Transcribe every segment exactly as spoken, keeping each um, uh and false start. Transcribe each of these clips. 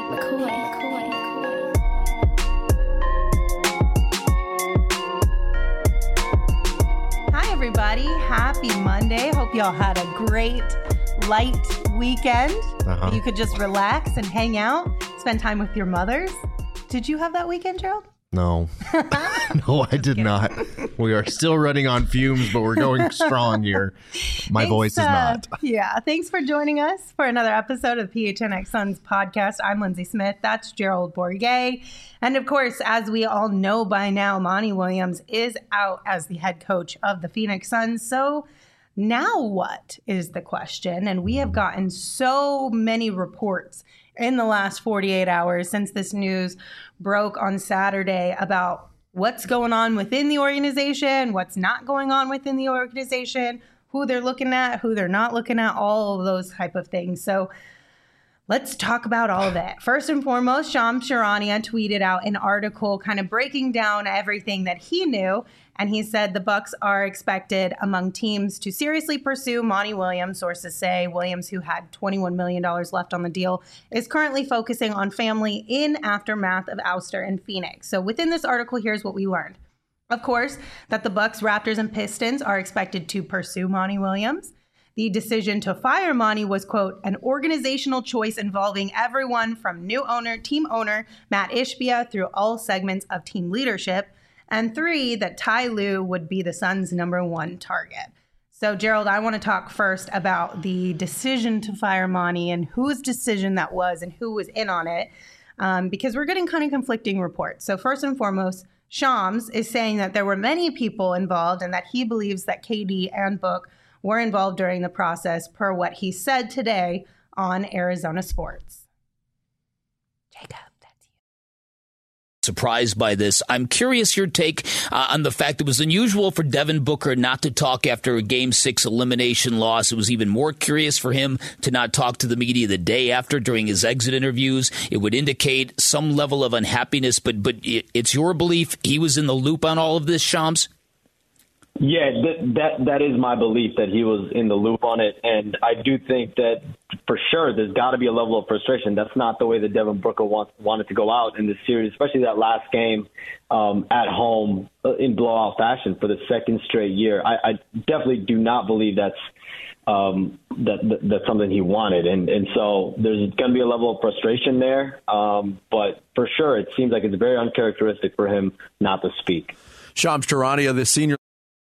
McCoy, McCoy, McCoy. Hi, everybody. Happy Monday. Hope y'all had a great, light weekend. Uh-huh. You could just relax and hang out, spend time with your mothers. Did you have that weekend, Gerald? No. No, I did kidding. not. We are still running on fumes, but we're going strong here. My thanks, voice is uh, not. Yeah. Thanks for joining us for another episode of the P H N X Suns podcast. I'm Lindsay Smith. That's Gerald Bourguet. And of course, as we all know by now, Monty Williams is out as the head coach of the Phoenix Suns. So now what is the question? And we have gotten so many reports in the last forty-eight hours since this news broke on Saturday about what's going on within the organization, what's not going on within the organization, who they're looking at, who they're not looking at, all of those type of things. So let's talk about all of it. First and foremost, Shams Charania tweeted out an article kind of breaking down everything that he knew. And he said the Bucks are expected among teams to seriously pursue Monty Williams. Sources say Williams, who had twenty-one million dollars left on the deal, is currently focusing on family in aftermath of ouster in Phoenix. So within this article, here's what we learned. Of course, that the Bucks, Raptors, and Pistons are expected to pursue Monty Williams. The decision to fire Monty was, quote, an organizational choice involving everyone from new owner, team owner Matt Ishbia through all segments of team leadership. And three, that Ty Lue would be the Suns' number one target. So, Gerald, I want to talk first about the decision to fire Monty and whose decision that was and who was in on it, um, because we're getting kind of conflicting reports. So first and foremost, Shams is saying that there were many people involved and that he believes that K D and Book were involved during the process, per what he said today on Arizona Sports. Jacob. Surprised by this. I'm curious your take uh, on the fact it was unusual for Devin Booker not to talk after a game six elimination loss. It was even more curious for him to not talk to the media the day after during his exit interviews. It would indicate some level of unhappiness, but but it, it's your belief he was in the loop on all of this, Shams? Yeah, that, that that is my belief that he was in the loop on it. And I do think that for sure there's got to be a level of frustration. That's not the way that Devin Booker want, wanted to go out in this series, especially that last game um, at home in blowout fashion for the second straight year. I, I definitely do not believe that's um, that, that that's something he wanted. And, and so there's going to be a level of frustration there. Um, but for sure, it seems like it's very uncharacteristic for him not to speak. Shams Charania, the senior.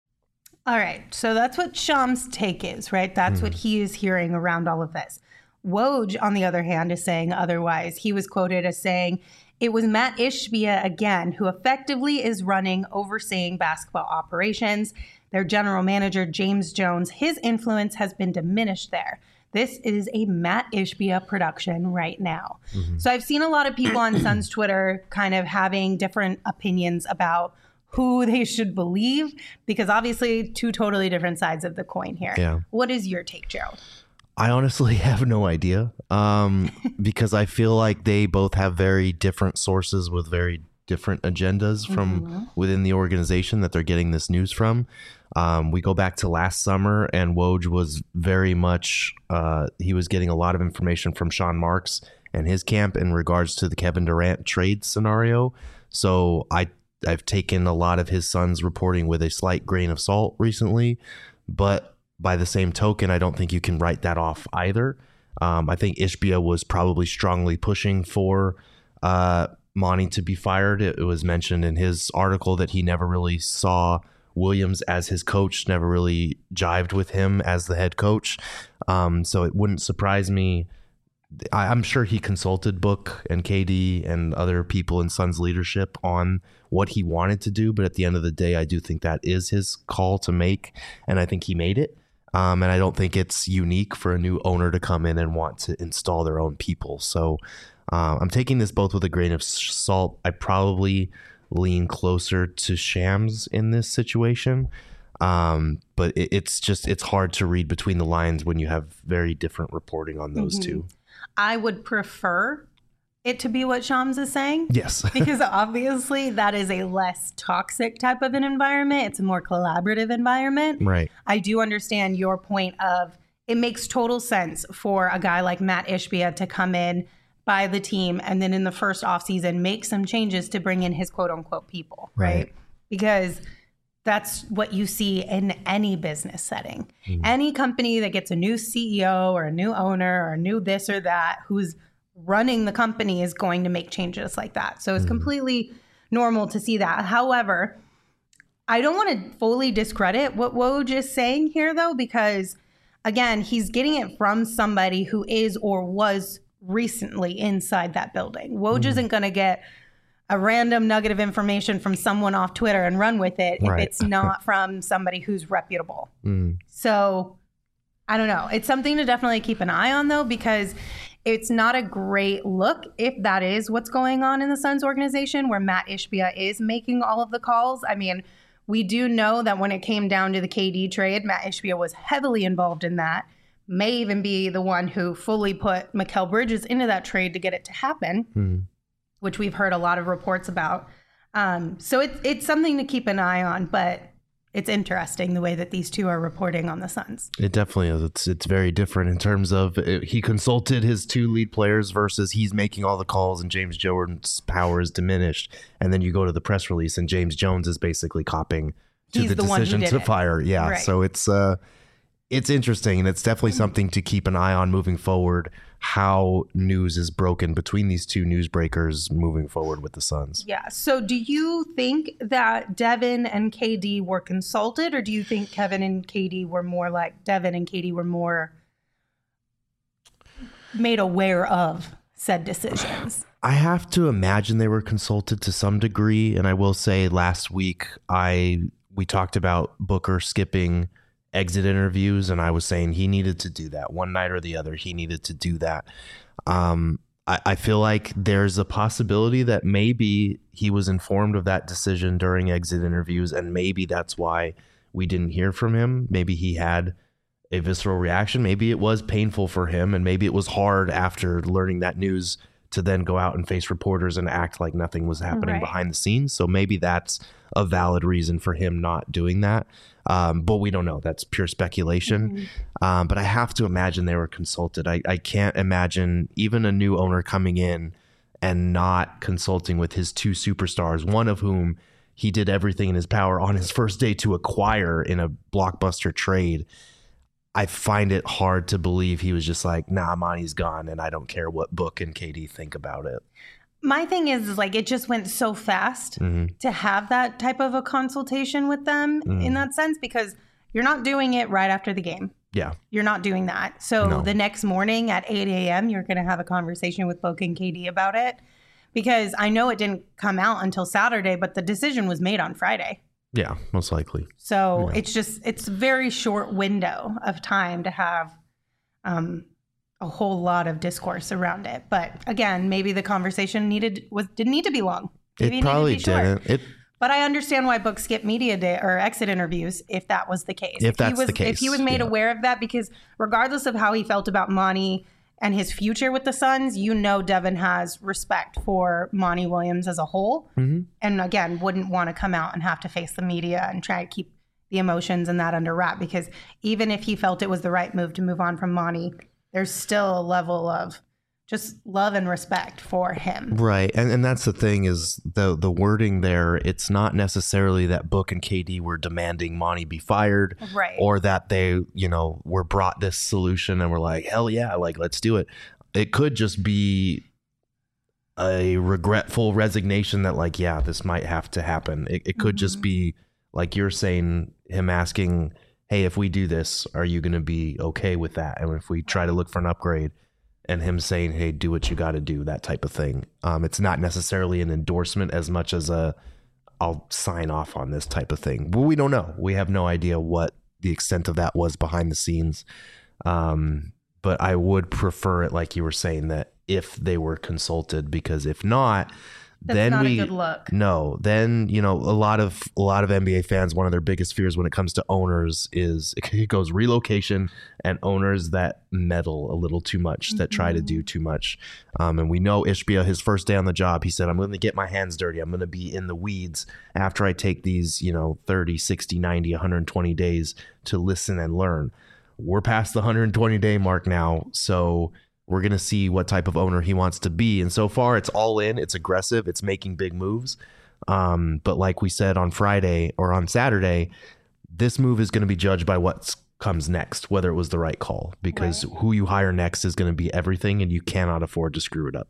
All right. So that's what Shams' take is, right? That's mm. what he is hearing around all of this. Woj, on the other hand, is saying otherwise. He was quoted as saying, it was Matt Ishbia again, who effectively is running, overseeing basketball operations. Their general manager, James Jones, his influence has been diminished there. This is a Matt Ishbia production right now. Mm-hmm. So I've seen a lot of people on Suns Twitter kind of having different opinions about who they should believe, because obviously two totally different sides of the coin here. Yeah. What is your take, Gerald? I honestly have no idea, um, because I feel like they both have very different sources with very different agendas from mm-hmm. within the organization that they're getting this news from. Um, we go back to last summer, and Woj was very much, uh, he was getting a lot of information from Sean Marks and his camp in regards to the Kevin Durant trade scenario. So I I've taken a lot of his son's reporting with a slight grain of salt recently, but by the same token, I don't think you can write that off either. Um, I think Ishbia was probably strongly pushing for uh, Monty to be fired. It, it was mentioned in his article that he never really saw Williams as his coach, never really jived with him as the head coach. Um, so it wouldn't surprise me. I, I'm sure he consulted Book and K D and other people in Suns leadership on what he wanted to do. But at the end of the day, I do think that is his call to make. And I think he made it. Um, and I don't think it's unique for a new owner to come in and want to install their own people. So uh, I'm taking this both with a grain of salt. I probably lean closer to Shams in this situation. Um, but it, it's just, it's hard to read between the lines when you have very different reporting on those mm-hmm. two. I would prefer it to be what Shams is saying. Yes. Because obviously that is a less toxic type of an environment. It's a more collaborative environment. Right. I do understand your point of it makes total sense for a guy like Matt Ishbia to come in, by the team, and then in the first offseason make some changes to bring in his quote unquote people, right? right? Because that's what you see in any business setting. Mm. Any company that gets a new C E O or a new owner or a new this or that who's running the company is going to make changes like that. So it's mm. completely normal to see that. However, I don't want to fully discredit what Woj is saying here, though, because, again, he's getting it from somebody who is or was recently inside that building. Woj mm. isn't going to get a random nugget of information from someone off Twitter and run with it right. if it's not from somebody who's reputable. Mm. So I don't know. It's something to definitely keep an eye on, though, because it's not a great look if that is what's going on in the Suns organization, where Matt Ishbia is making all of the calls. I mean, we do know that when it came down to the K D trade, Matt Ishbia was heavily involved in that, may even be the one who fully put Mikal Bridges into that trade to get it to happen, mm. which we've heard a lot of reports about. Um, so it, it's something to keep an eye on, but it's interesting the way that these two are reporting on the Suns. It definitely is. It's it's very different in terms of it, he consulted his two lead players versus he's making all the calls and James Jordan's power is diminished. And then you go to the press release and James Jones is basically copying to he's the, the decision to it. fire. Yeah. Right. So it's uh, it's interesting, and it's definitely something to keep an eye on moving forward, how news is broken between these two newsbreakers moving forward with the Suns. Yeah. So do you think that Devin and K D were consulted, or do you think Kevin and K D were more like Devin and K D were more made aware of said decisions? I have to imagine they were consulted to some degree. And I will say last week, I we talked about Booker skipping exit interviews, and I was saying he needed to do that one night or the other. He needed to do that. Um, I, I feel like there's a possibility that maybe he was informed of that decision during exit interviews, and maybe that's why we didn't hear from him. Maybe he had a visceral reaction. Maybe it was painful for him, and maybe it was hard after learning that news to then go out and face reporters and act like nothing was happening right. behind the scenes. So maybe that's a valid reason for him not doing that. Um, but we don't know. That's pure speculation. Mm-hmm. Um, but I have to imagine they were consulted. I, I can't imagine even a new owner coming in and not consulting with his two superstars, one of whom he did everything in his power on his first day to acquire in a blockbuster trade. I find it hard to believe he was just like, nah, Monty's gone, and I don't care what Book and K D think about it. My thing is, is like, it just went so fast mm-hmm. to have that type of a consultation with them mm-hmm. in that sense, because you're not doing it right after the game. Yeah. You're not doing that. So no. the next morning at eight a.m., you're going to have a conversation with Book and K D about it, because I know it didn't come out until Saturday, but the decision was made on Friday. Yeah, most likely. So yeah. it's just, it's a very short window of time to have um, a whole lot of discourse around it. But again, maybe the conversation needed was didn't need to be long. Maybe it probably it needed to be short. didn't. It, but I understand why Book skipped media day or exit interviews if that was the case. If, if that's he was, the case. If he was made yeah. aware of that, because regardless of how he felt about Monty and his future with the Suns, you know Devin has respect for Monty Williams as a whole. Mm-hmm. And again, wouldn't want to come out and have to face the media and try to keep the emotions and that under wrap, because even if he felt it was the right move to move on from Monty, there's still a level of just love and respect for him. Right. And and that's the thing is the the wording there, it's not necessarily that Book and K D were demanding Monty be fired, right, or that they, you know, were brought this solution and were like, hell yeah, like, let's do it. It could just be a regretful resignation that like, yeah, this might have to happen. It, it could mm-hmm. just be like you're saying, him asking, hey, if we do this, are you going to be okay with that? And if we try to look for an upgrade, and him saying, hey, do what you got to do, that type of thing. Um, it's not necessarily an endorsement as much as a, I'll sign off on this type of thing. But we don't know. We have no idea what the extent of that was behind the scenes. Um, but I would prefer it, like you were saying, that if they were consulted, because if not, That's then not we a good look. No, then, you know, a lot of a lot of N B A fans, one of their biggest fears when it comes to owners is it goes relocation and owners that meddle a little too much, mm-hmm. that try to do too much. Um, and we know Ishbia, his first day on the job, he said, I'm going to get my hands dirty. I'm going to be in the weeds after I take these, you know, thirty, sixty, ninety, one hundred twenty days to listen and learn. We're past the one hundred twenty day mark now. So we're going to see what type of owner he wants to be. And so far, it's all in. It's aggressive. It's making big moves. Um, but like we said on Friday or on Saturday, this move is going to be judged by what comes next, whether it was the right call, because right. who you hire next is going to be everything, and you cannot afford to screw it up.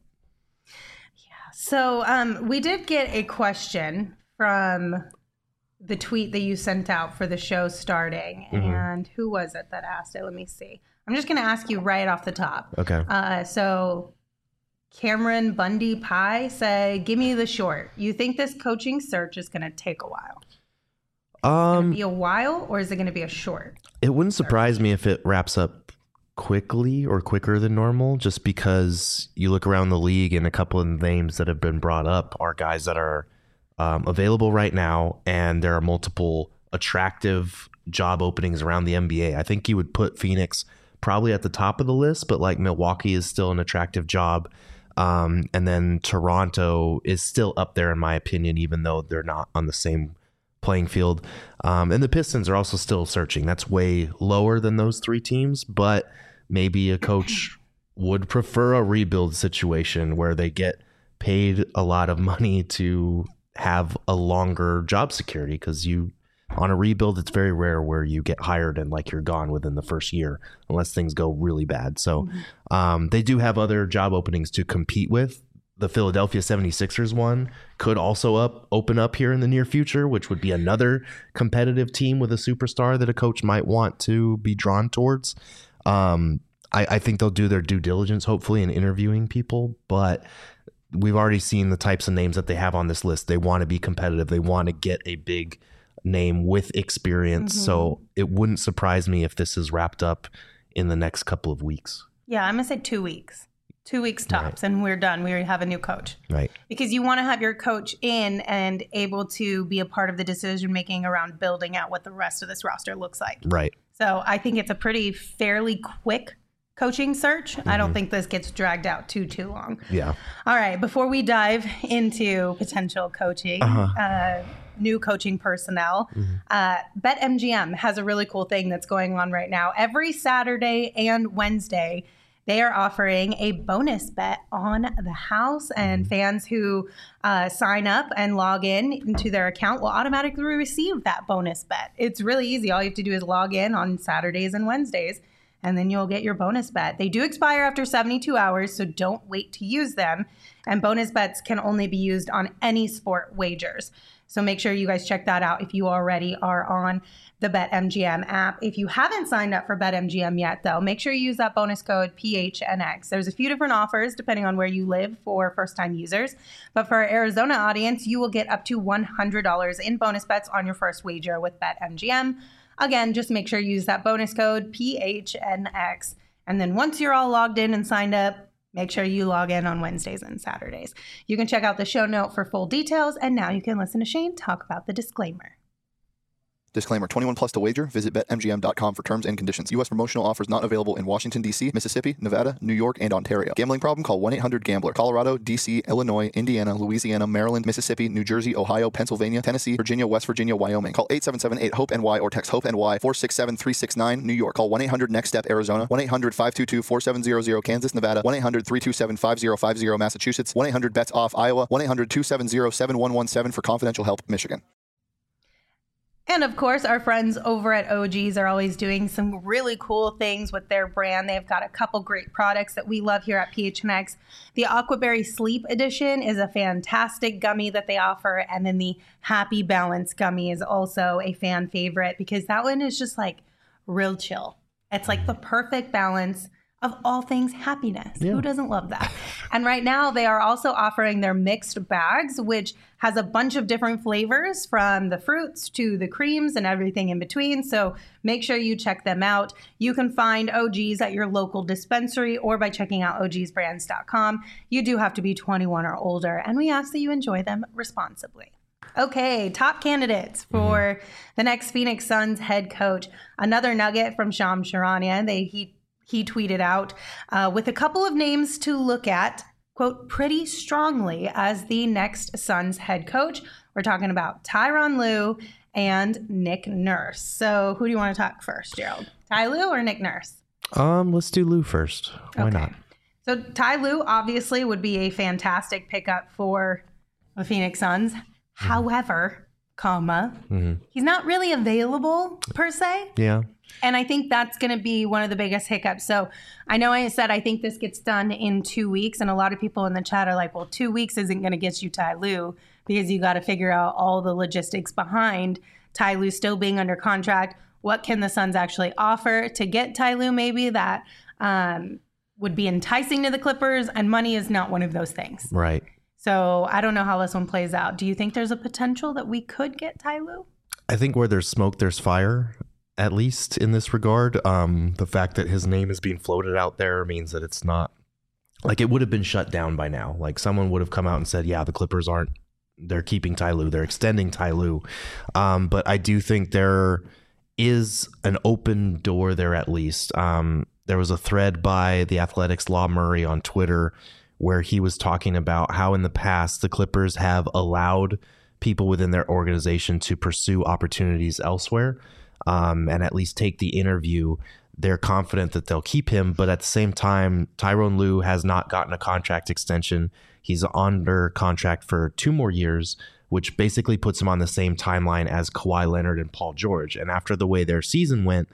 Yeah. So um, we did get a question from the tweet that you sent out for the show starting. Mm-hmm. And who was it that asked it? Let me see. I'm just going to ask you right off the top. Okay. Uh, so Cameron Bundy Pie said, give me the short. You think this coaching search is going to take a while? Um, be a while, or is it going to be a short? It wouldn't surprise me if it wraps up quickly or quicker than normal, just because you look around the league and a couple of names that have been brought up are guys that are um, available right now, and there are multiple attractive job openings around the N B A. I think you would put Phoenix probably at the top of the list, but like Milwaukee is still an attractive job. Um, and then Toronto is still up there, in my opinion, even though they're not on the same playing field. Um, and the Pistons are also still searching. That's way lower than those three teams, but maybe a coach would prefer a rebuild situation where they get paid a lot of money to have a longer job security, because you on a rebuild, it's very rare where you get hired and like you're gone within the first year unless things go really bad. So mm-hmm. um, they do have other job openings to compete with. The Philadelphia seventy-sixers one could also up open up here in the near future, which would be another competitive team with a superstar that a coach might want to be drawn towards. Um, I, I think they'll do their due diligence, hopefully, in interviewing people, but we've already seen the types of names that they have on this list. They want to be competitive. They want to get a big name with experience. Mm-hmm. So it wouldn't surprise me if this is wrapped up in the next couple of weeks. Yeah, I'm going to say two weeks. Two weeks tops, right. And we're done. We already have a new coach. Right. Because you want to have your coach in and able to be a part of the decision-making around building out what the rest of this roster looks like. Right. So I think it's a pretty fairly quick coaching search. Mm-hmm. I don't think this gets dragged out too, too long. Yeah. All right. Before we dive into potential coaching, uh-huh. uh, new coaching personnel, mm-hmm. uh, BetMGM has a really cool thing that's going on right now. Every Saturday and Wednesday, they are offering a bonus bet on the house, and fans who uh, sign up and log in into their account will automatically receive that bonus bet. It's really easy. All you have to do is log in on Saturdays and Wednesdays, and then you'll get your bonus bet. They do expire after seventy-two hours, so don't wait to use them. And bonus bets can only be used on any sport wagers. So make sure you guys check that out if you already are on the BetMGM app. If you haven't signed up for BetMGM yet, though, make sure you use that bonus code P H N X. There's a few different offers depending on where you live for first-time users. But for our Arizona audience, you will get up to one hundred dollars in bonus bets on your first wager with BetMGM. Again, just make sure you use that bonus code P H N X. And then once you're all logged in and signed up, make sure you log in on Wednesdays and Saturdays. You can check out the show note for full details. And now you can listen to Shane talk about the disclaimer. Disclaimer, twenty-one plus to wager. Visit Bet M G M dot com for terms and conditions. U S promotional offers not available in Washington, D C, Mississippi, Nevada, New York, and Ontario. Gambling problem? Call one eight hundred gambler. Colorado, D C, Illinois, Indiana, Louisiana, Maryland, Mississippi, New Jersey, Ohio, Pennsylvania, Tennessee, Virginia, West Virginia, Wyoming. Call eight seven seven eight hope N Y or text HOPE-NY four six seven three six nine. New York. Call one eight hundred next step Arizona. one eight hundred five two two four seven zero zero. Kansas, Nevada. one eight hundred three two seven five zero five zero. Massachusetts. one eight hundred bets off Iowa. one eight hundred two seven zero seven one one seven for confidential help. Michigan. And of course, our friends over at O G's are always doing some really cool things with their brand. They've got a couple great products that we love here at P H N X. The Aquaberry Sleep Edition is a fantastic gummy that they offer. And then the Happy Balance gummy is also a fan favorite because that one is just like real chill. It's like the perfect balance of all things happiness. Yeah. Who doesn't love that? And right now they are also offering their mixed bags, which has a bunch of different flavors from the fruits to the creams and everything in between. So make sure you check them out. You can find O G's at your local dispensary or by checking out O Gs brands dot com. You do have to be twenty-one or older, and we ask that you enjoy them responsibly. Okay, top candidates for mm-hmm. the next Phoenix Suns head coach. Another nugget from Shams Charania. They he He tweeted out uh, with a couple of names to look at, quote, pretty strongly as the next Suns head coach. We're talking about Tyronn Lue and Nick Nurse. So who do you want to talk first, Gerald? Ty Lue or Nick Nurse? Um, let's do Lue first. Why okay. not? So Ty Lue obviously would be a fantastic pickup for the Phoenix Suns. Mm-hmm. However, comma, mm-hmm. he's not really available per se. Yeah. And I think that's going to be one of the biggest hiccups. So I know I said I think this gets done in two weeks. And a lot of people in the chat are like, well, two weeks isn't going to get you Ty Lue because you got to figure out all the logistics behind Ty Lue still being under contract. What can the Suns actually offer to get Ty Lue maybe that um, would be enticing to the Clippers? And money is not one of those things. Right. So I don't know how this one plays out. Do you think there's a potential that we could get Ty Lue? I think where there's smoke, there's fire. At least in this regard, um, the fact that his name is being floated out there means that it's not like it would have been shut down by now. Like someone would have come out and said, yeah, the Clippers aren't, they're keeping Ty Lue, they're extending Ty Lue. Um, but I do think there is an open door there at least. Um, there was a thread by the Athletics' Law Murray on Twitter where he was talking about how in the past the Clippers have allowed people within their organization to pursue opportunities elsewhere. Um, and at least take the interview. They're confident that they'll keep him. But at the same time, Tyronn Lue has not gotten a contract extension. He's under contract for two more years, which basically puts him on the same timeline as Kawhi Leonard and Paul George. And after the way their season went,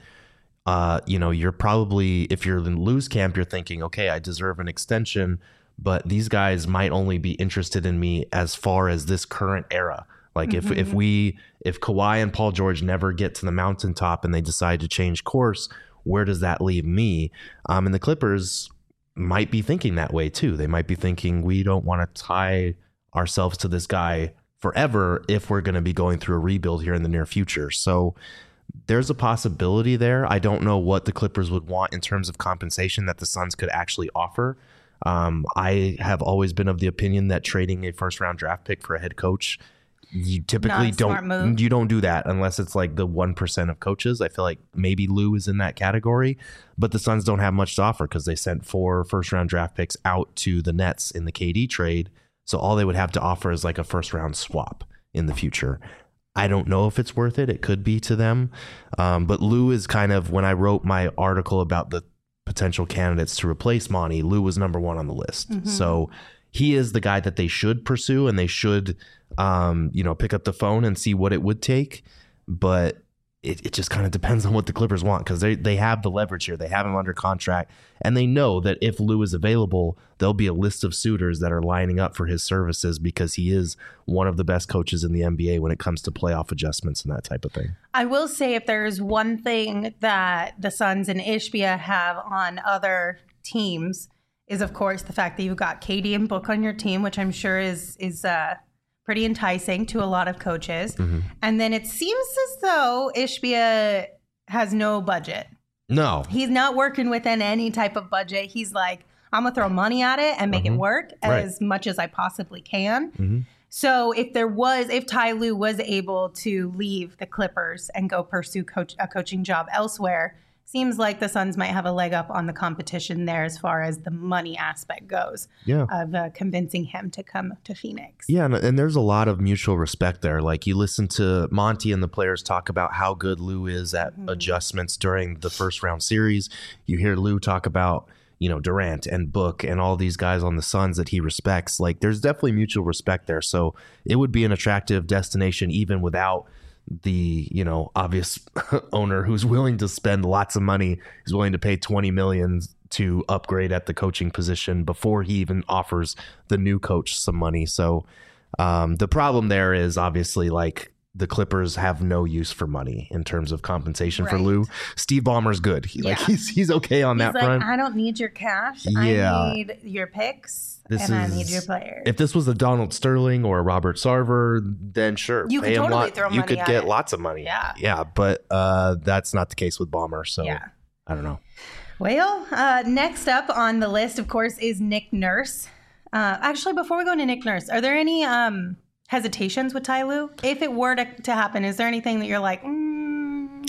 uh, you know, you're probably, if you're in Lue's camp, you're thinking, okay, I deserve an extension, but these guys might only be interested in me as far as this current era. Like mm-hmm. if if we if Kawhi and Paul George never get to the mountaintop and they decide to change course, where does that leave me? Um, and the Clippers might be thinking that way too. They might be thinking we don't want to tie ourselves to this guy forever if we're going to be going through a rebuild here in the near future. So there's a possibility there. I don't know what the Clippers would want in terms of compensation that the Suns could actually offer. Um, I have always been of the opinion that trading a first round draft pick for a head coach, you typically don't you don't do that unless it's like the one percent of coaches. I feel like maybe Lue is in that category, but the Suns don't have much to offer because they sent four first round draft picks out to the Nets in the K D trade. So all they would have to offer is like a first round swap in the future. I don't know if it's worth it. It could be to them. Um, but Lue is kind of, when I wrote my article about the potential candidates to replace Monty, Lue was number one on the list. Mm-hmm. So he is the guy that they should pursue, and they should, um, you know, pick up the phone and see what it would take. But it, it just kind of depends on what the Clippers want, because they they have the leverage here. They have him under contract, and they know that if Lue is available, there'll be a list of suitors that are lining up for his services because he is one of the best coaches in the N B A when it comes to playoff adjustments and that type of thing. I will say, if there's one thing that the Suns and Ishbia have on other teams, is of course the fact that you've got K D and Book on your team, which I'm sure is is uh, pretty enticing to a lot of coaches. Mm-hmm. And then it seems as though Ishbia has no budget. No. He's not working within any type of budget. He's like, I'm going to throw money at it and make mm-hmm. it work right. as much as I possibly can. Mm-hmm. So if there was, if Ty Lue was able to leave the Clippers and go pursue coach, a coaching job elsewhere, seems like the Suns might have a leg up on the competition there as far as the money aspect goes. Yeah. Of uh, convincing him to come to Phoenix. Yeah, and, and there's a lot of mutual respect there. Like, you listen to Monty and the players talk about how good Lue is at mm-hmm. adjustments during the first round series. You hear Lue talk about, you know, Durant and Book and all these guys on the Suns that he respects. Like, there's definitely mutual respect there. So it would be an attractive destination even without the, you know, obvious owner who's willing to spend lots of money, is willing to pay twenty million to upgrade at the coaching position before he even offers the new coach some money. So um, the problem there is obviously, like, the Clippers have no use for money in terms of compensation right. for Lue. Steve Ballmer's good. He, yeah. Like he's he's okay on he's that like, front. I don't need your cash. Yeah. I need your picks. This and is, I need your players. If this was a Donald Sterling or a Robert Sarver, then sure, you pay could totally lot, throw money you could at get it. lots of money. Yeah, yeah, but uh, that's not the case with Ballmer. So yeah. I don't know. Well, uh, next up on the list, of course, is Nick Nurse. Uh, actually, before we go into Nick Nurse, are there any um, hesitations with Ty Lue? If it were to, to happen, is there anything that you're like, mm?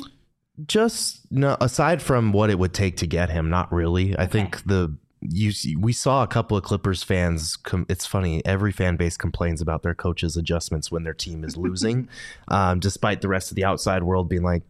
Just no, aside from what it would take to get him, not really. I okay. think the you we saw a couple of Clippers fans. Com- it's funny. Every fan base complains about their coaches' adjustments when their team is losing, um, despite the rest of the outside world being like,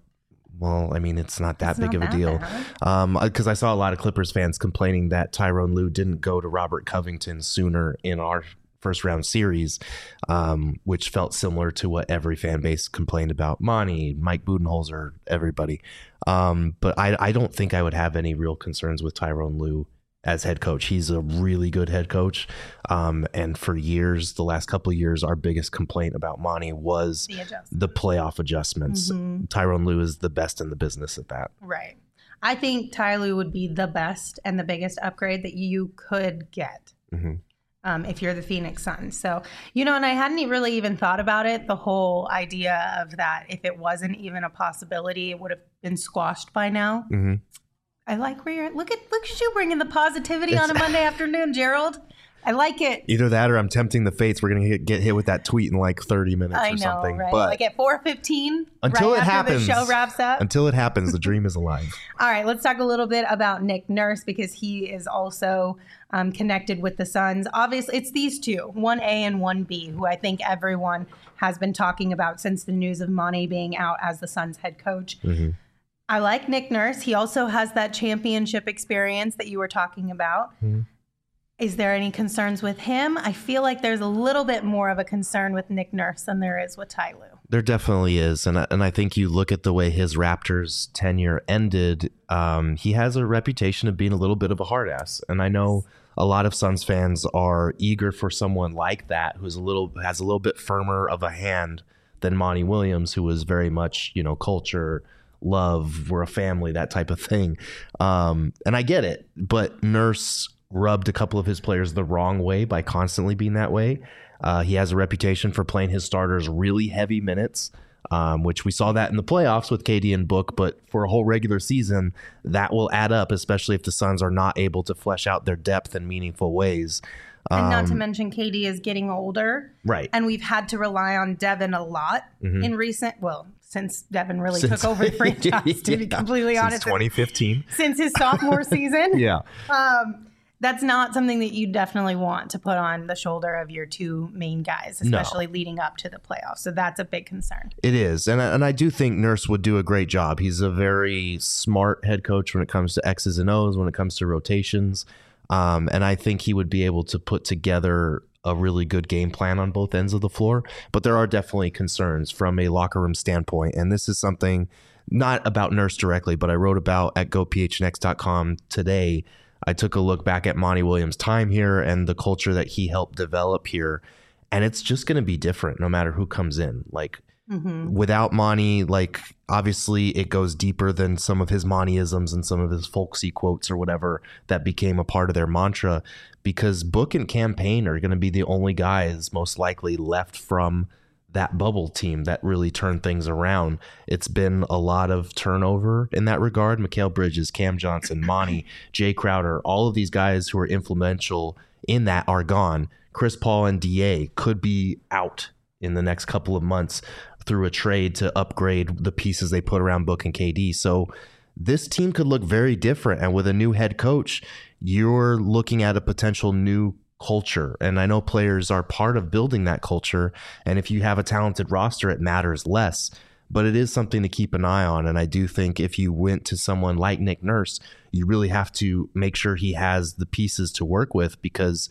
Well, I mean, it's not that It's big not of a that deal. bad. Um, because I saw a lot of Clippers fans complaining that Tyronn Lue didn't go to Robert Covington sooner in our first round series, um, which felt similar to what every fan base complained about Monty, Mike Budenholzer, everybody. Um, but I, I don't think I would have any real concerns with Tyronn Lue as head coach. He's a really good head coach. Um, and for years, the last couple of years, our biggest complaint about Monty was The adjustment. the playoff adjustments. Mhm. Tyronn Lue is the best in the business at that. Right. I think Ty Lue would be the best and the biggest upgrade that you could get. Mhm. Um, if you're the Phoenix Suns. So, you know, and I hadn't really even thought about it, the whole idea of that if it wasn't even a possibility, it would have been squashed by now. Mhm. I like where you're at. Look at look at you bringing the positivity on a Monday afternoon, Gerald. I like it. Either that or I'm tempting the fates. We're going to get hit with that tweet in like thirty minutes I or know, something. right? But Like at four fifteen, until right it after happens, the show wraps up. until it happens, the dream is alive. All right, let's talk a little bit about Nick Nurse because he is also um, connected with the Suns. Obviously, it's these two, one A and one B, who I think everyone has been talking about since the news of Monty being out as the Suns head coach. Mm-hmm. I like Nick Nurse. He also has that championship experience that you were talking about. Mm-hmm. Is there any concerns with him? I feel like there's a little bit more of a concern with Nick Nurse than there is with Ty Lue. There definitely is. And, I- and I think you look at the way his Raptors tenure ended, um, he has a reputation of being a little bit of a hard ass. And I know a lot of Suns fans are eager for someone like that who's a little has a little bit firmer of a hand than Monty Williams, who was very much, you know, culture, love, we're a family, that type of thing. Um, and I get it. But Nurse rubbed a couple of his players the wrong way by constantly being that way. Uh, he has a reputation for playing his starters really heavy minutes, um, which we saw that in the playoffs with K D and Book. But for a whole regular season, that will add up, especially if the Suns are not able to flesh out their depth in meaningful ways. And not to Um, mention K D is getting older. Right. And we've had to rely on Devin a lot Mhm. in recent, well, since Devin really Since- took over the franchise, to be Yeah, completely since honest. twenty fifteen. Since his sophomore season. Yeah. Um, that's not something that you definitely want to put on the shoulder of your two main guys, No. especially leading up to the playoffs. So that's a big concern. It is. And, I- and I do think Nurse would do a great job. He's a very smart head coach when it comes to X's and O's, when it comes to rotations. Um, and I think he would be able to put together a really good game plan on both ends of the floor. But there are definitely concerns from a locker room standpoint. And this is something not about Nurse directly, but I wrote about at go p h n x dot com today. I took a look back at Monty Williams' time here and the culture that he helped develop here. And it's just going to be different no matter who comes in. Like, Mm-hmm. without Monty, like, obviously it goes deeper than some of his Montyisms and some of his folksy quotes or whatever that became a part of their mantra, because Book and Cam Payne are going to be the only guys most likely left from that bubble team that really turned things around. It's been a lot of turnover in that regard. Mikal Bridges, Cam Johnson, Monty, Jay Crowder, all of these guys who are influential in that are gone. Chris Paul and D A could be out in the next couple of months through a trade to upgrade the pieces they put around Book and K D. So this team could look very different. And with a new head coach, you're looking at a potential new culture. And I know players are part of building that culture. And if you have a talented roster, it matters less. But it is something to keep an eye on. And I do think if you went to someone like Nick Nurse, you really have to make sure he has the pieces to work with, because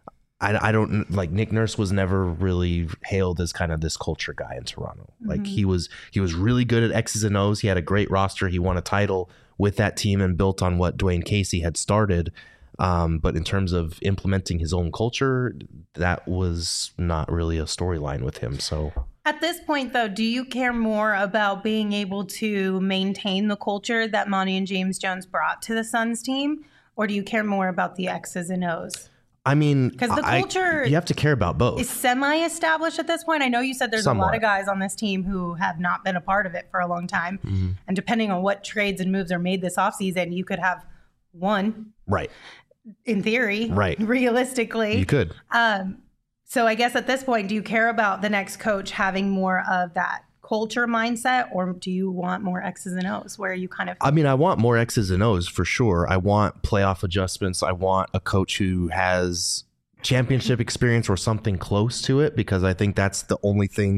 I, I don't like Nick Nurse was never really hailed as kind of this culture guy in Toronto. Mm-hmm. Like he was, he was really good at X's and O's. He had a great roster. He won a title with that team and built on what Dwayne Casey had started. Um, but in terms of implementing his own culture, that was not really a storyline with him. So at this point, though, do you care more about being able to maintain the culture that Monty and James Jones brought to the Suns team, or do you care more about the X's and O's? I mean, because the I, culture you have to care about both. Is semi-established at this point. I know you said there's Somewhat. a lot of guys on this team who have not been a part of it for a long time. Mm-hmm. And depending on what trades and moves are made this offseason, you could have one. Right. In theory. Right. Realistically. You could. Um, so I guess at this point, do you care about the next coach having more of that culture mindset, or do you want more X's and O's where you kind of... I mean, I want more X's and O's for sure. I want playoff adjustments. I want a coach who has championship experience or something close to it, because I think that's the only thing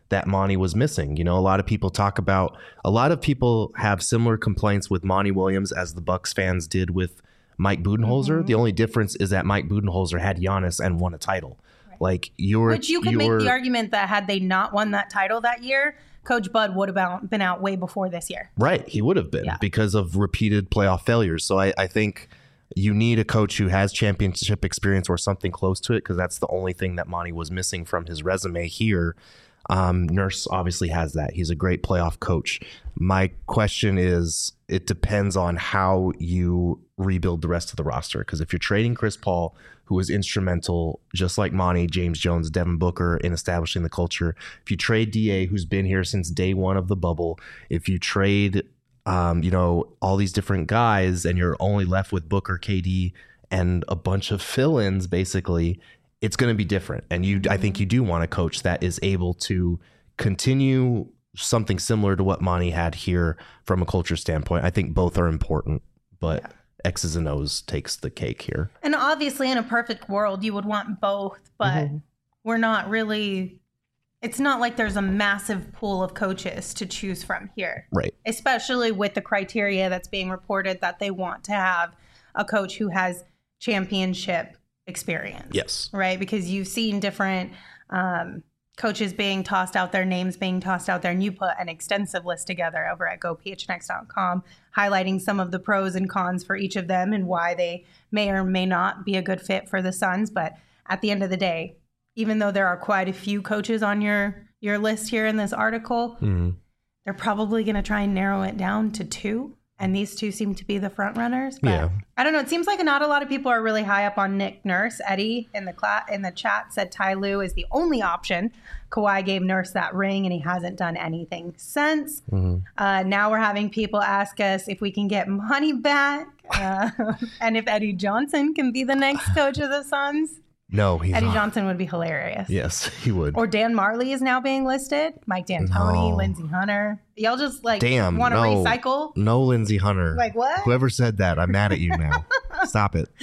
that Monty was missing. You know, a lot of people talk about, a lot of people have similar complaints with Monty Williams as the Bucks fans did with Mike Budenholzer. Mm-hmm. The only difference is that Mike Budenholzer had Giannis and won a title. Right. Like you're, Which you could you're, make the argument that had they not won that title that year, Coach Bud would have been out way before this year. Right. He would have been yeah. because of repeated playoff failures. So I, I think you need a coach who has championship experience or something close to it, because that's the only thing that Monty was missing from his resume here. Um, Nurse obviously has that. He's a great playoff coach. My question is, it depends on how you rebuild the rest of the roster. Because if you're trading Chris Paul, who was instrumental, just like Monty, James Jones, Devin Booker, in establishing the culture. If you trade D A, who's been here since day one of the bubble, if you trade, um, you know, all these different guys, and you're only left with Booker, K D, and a bunch of fill-ins, basically, it's going to be different. And you, I think you do want a coach that is able to continue something similar to what Monty had here from a culture standpoint. I think both are important, but yeah. X's and O's takes the cake here. And obviously in a perfect world, you would want both, but mm-hmm. we're not really, it's not like there's a massive pool of coaches to choose from here. Right. Especially with the criteria that's being reported that they want to have a coach who has championship experience. Yes. Right. Because you've seen different um, coaches being tossed out there, names being tossed out there, and you put an extensive list together over at go p h n x dot com, highlighting some of the pros and cons for each of them and why they may or may not be a good fit for the Suns. But at the end of the day, even though there are quite a few coaches on your, your list here in this article, mm-hmm. they're probably going to try and narrow it down to two. And these two seem to be the front runners. But yeah. I don't know. It seems like not a lot of people are really high up on Nick Nurse. Eddie in the cla- in the chat said Ty Lue is the only option. Kawhi gave Nurse that ring, and he hasn't done anything since. Mm-hmm. Uh, now we're having people ask us if we can get money back uh, and if Eddie Johnson can be the next coach of the Suns. No, he's Eddie not. Johnson would be hilarious. Yes, he would. Or Dan Marley is now being listed. Mike D'Antoni, No. Lindsey Hunter. Y'all just like Damn, want to no. recycle? No Lindsey Hunter. Like what? Whoever said that, I'm mad at you now. Stop it.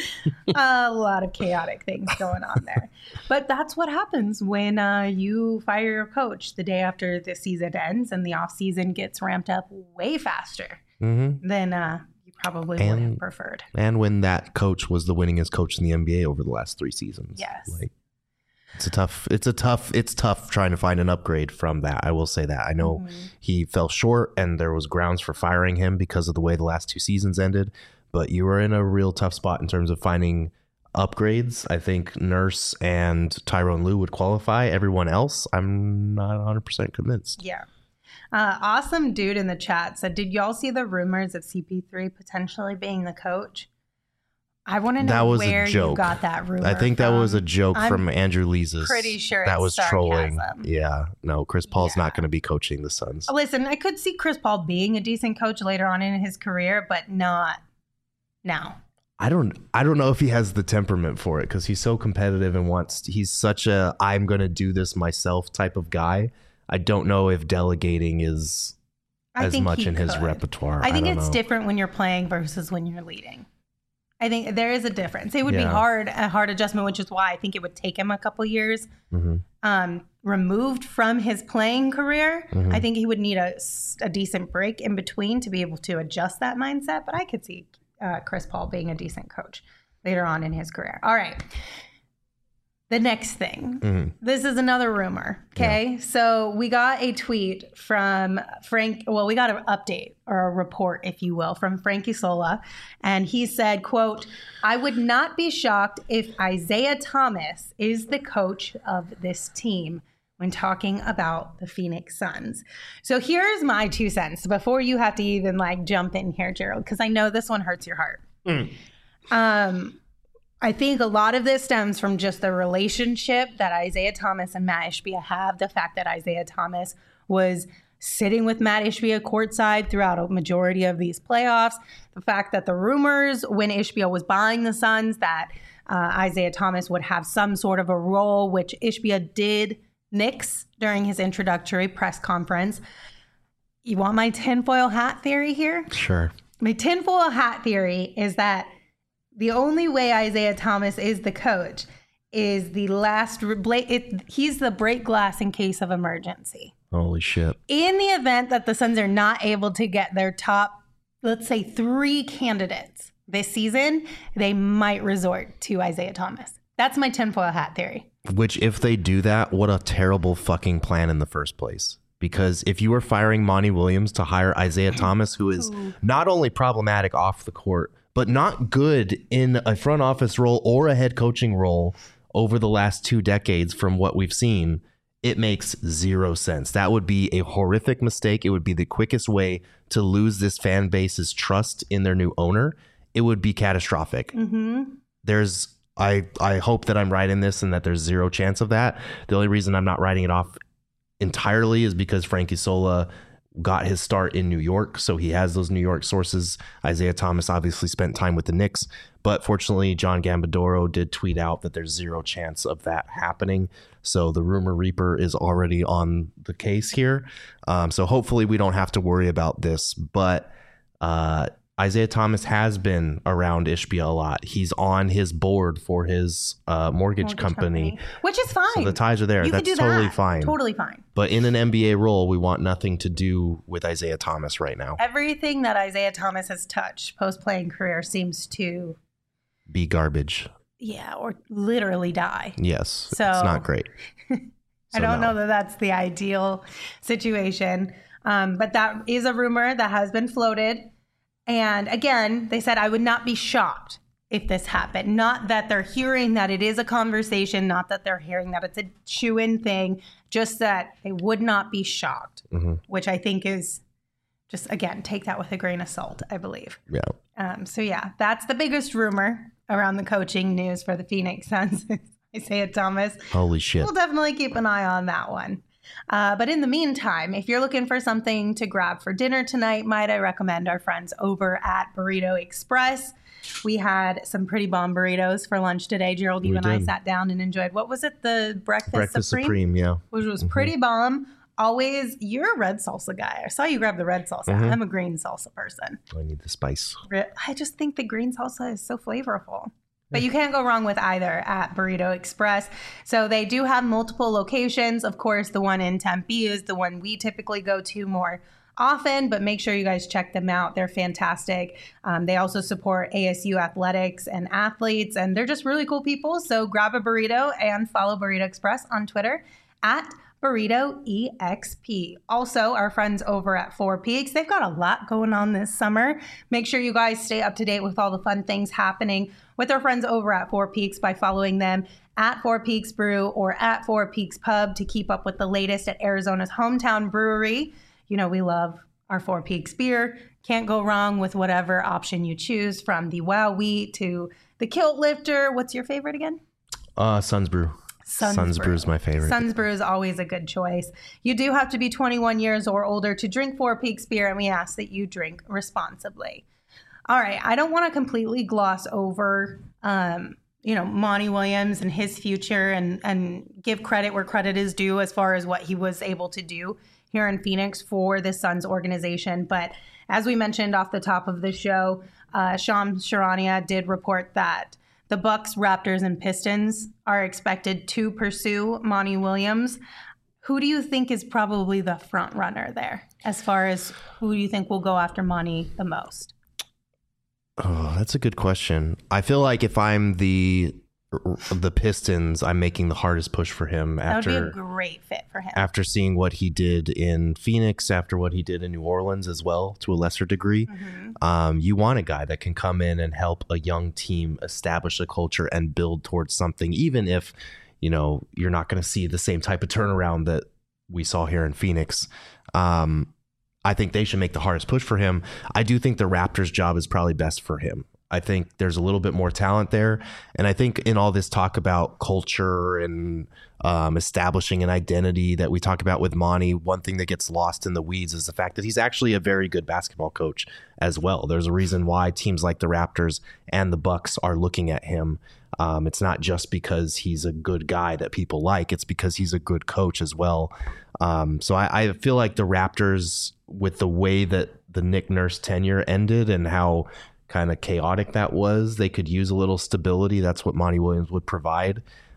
A lot of chaotic things going on there. But that's what happens when uh, you fire your coach the day after the season ends and the offseason gets ramped up way faster mm-hmm. than uh, you probably and, would have preferred. And when that coach was the winningest coach in the N B A over the last three seasons. Yes. Like, it's a tough, it's a tough, it's tough trying to find an upgrade from that. I will say that. I know mm-hmm. he fell short and there was grounds for firing him because of the way the last two seasons ended. But you were in a real tough spot in terms of finding upgrades. I think Nurse and Tyronn Lue would qualify. Everyone else, I'm not one hundred percent convinced. Yeah. Uh, awesome dude in the chat said, did y'all see the rumors of C P three potentially being the coach? I want to know that was where a joke. you got that rumor I think from. that was a joke I'm from Andrew Lee's. Pretty sure that it's was sarcasm. trolling. Yeah, no, Chris Paul's Yeah. not going to be coaching the Suns. Listen, I could see Chris Paul being a decent coach later on in his career, but not now. I don't I don't know if he has the temperament for it because he's so competitive and wants he's such a I'm going to do this myself type of guy. I don't know if delegating is I as think much he in his could. repertoire. I think I don't it's know. different when you're playing versus when you're leading. I think there is a difference. It would be Yeah. hard, a hard adjustment, which is why I think it would take him a couple years. Mm-hmm. Um, removed from his playing career, mm-hmm. I think he would need a, a decent break in between to be able to adjust that mindset. But I could see uh, Chris Paul being a decent coach later on in his career. All right. The next thing, mm-hmm. this is another rumor. Okay. Yeah. So we got a tweet from Frank. Well, we got an update or a report, if you will, from Frank Isola. And he said, quote, I would not be shocked if Isaiah Thomas is the coach of this team when talking about the Phoenix Suns. So here's my two cents before you have to even like jump in here, Gerald, because I know this one hurts your heart. Mm. Um, I think a lot of this stems from just the relationship that Isaiah Thomas and Matt Ishbia have. The fact that Isaiah Thomas was sitting with Matt Ishbia courtside throughout a majority of these playoffs. The fact that the rumors when Ishbia was buying the Suns that uh, Isaiah Thomas would have some sort of a role, which Ishbia did nix during his introductory press conference. You want my tinfoil hat theory here? Sure. My tinfoil hat theory is that the only way Isaiah Thomas is the coach is the last, it, he's the break glass in case of emergency. Holy shit. In the event that the Suns are not able to get their top, let's say, three candidates this season, they might resort to Isaiah Thomas. That's my tinfoil hat theory. Which, if they do that, what a terrible fucking plan in the first place. Because if you were firing Monty Williams to hire Isaiah Thomas, who is not only problematic off the court, but not good in a front office role or a head coaching role over the last two decades from what we've seen, it makes zero sense. That would be a horrific mistake. It would be the quickest way to lose this fan base's trust in their new owner. It would be catastrophic. Mm-hmm. There's, I, I hope that I'm right in this and that there's zero chance of that. The only reason I'm not writing it off entirely is because Frankie Sola got his start in New York, so he has those New York sources. Isaiah Thomas obviously spent time with the Knicks, but fortunately John Gambadoro did tweet out that there's zero chance of that happening. So the rumor reaper is already on the case here. Um, so hopefully we don't have to worry about this, but uh, Isaiah Thomas has been around Ishbia a lot. He's on his board for his uh, mortgage, mortgage company, company, which is fine. So the ties are there. You That's do totally that. fine. Totally fine. But in an N B A role, we want nothing to do with Isaiah Thomas right now. Everything that Isaiah Thomas has touched post-playing career seems to be garbage. Yeah, or literally die. Yes, so it's not great. I so don't no. know that that's the ideal situation. Um, but that is a rumor that has been floated. And again, they said, I would not be shocked if this happened. Not that they're hearing that it is a conversation, not that they're hearing that it's a chew-in thing, just that they would not be shocked, mm-hmm. which I think is just, again, take that with a grain of salt, I believe. Yeah. Um, so, yeah, that's the biggest rumor around the coaching news for the Phoenix Suns. Isaiah Thomas. Holy shit. We'll definitely keep an eye on that one. Uh, but in the meantime, if you're looking for something to grab for dinner tonight, might I recommend our friends over at Burrito Express. We had some pretty bomb burritos for lunch today. Gerald, you we and did. I sat down and enjoyed, what was it? The Breakfast, Breakfast Supreme? Supreme, yeah. Which was mm-hmm. pretty bomb. Always, you're a red salsa guy. I saw you grab the red salsa. Mm-hmm. I'm a green salsa person. I need the spice. I just think the green salsa is so flavorful. But you can't go wrong with either at Burrito Express. So they do have multiple locations. Of course, the one in Tempe is the one we typically go to more often, but make sure you guys check them out. They're fantastic. Um, they also support A S U athletics and athletes, and they're just really cool people. So grab a burrito and follow Burrito Express on Twitter at Burrito E X P. Also, our friends over at Four Peaks, they've got a lot going on this summer. Make sure you guys stay up to date with all the fun things happening with our friends over at Four Peaks by following them at Four Peaks Brew or at Four Peaks Pub to keep up with the latest at Arizona's hometown brewery. You know, we love our Four Peaks beer. Can't go wrong with whatever option you choose, from the Wow Wheat to the Kilt Lifter. What's your favorite again? Uh, Suns Brew. Suns, Suns Brew. Brew is my favorite. Suns Brew is always a good choice. You do have to be twenty-one years or older to drink Four Peaks beer, and we ask that you drink responsibly. All right, I don't want to completely gloss over, um, you know, Monty Williams and his future, and and give credit where credit is due as far as what he was able to do here in Phoenix for the Suns organization. But as we mentioned off the top of the show, uh, Shams Charania did report that the Bucks, Raptors, and Pistons are expected to pursue Monty Williams. Who do you think is probably the front runner there, as far as who do you think will go after Monty the most? Oh, that's a good question. I feel like if I'm the the Pistons, I'm making the hardest push for him after that would be a great fit for him. After seeing what he did in Phoenix, after what he did in New Orleans as well, to a lesser degree. Mm-hmm. Um, you want a guy that can come in and help a young team establish a culture and build towards something, even if, you know, you're not going to see the same type of turnaround that we saw here in Phoenix. Um, I think they should make the hardest push for him. I do think the Raptors' job is probably best for him. I think there's a little bit more talent there. And I think in all this talk about culture and um, establishing an identity that we talk about with Monty, one thing that gets lost in the weeds is the fact that he's actually a very good basketball coach as well. There's a reason why teams like the Raptors and the Bucks are looking at him. Um, it's not just because he's a good guy that people like. It's because he's a good coach as well. Um, so I, I feel like the Raptors, with the way that the Nick Nurse tenure ended and how kind of chaotic that was, they could use a little stability. That's what Monty Williams would provide.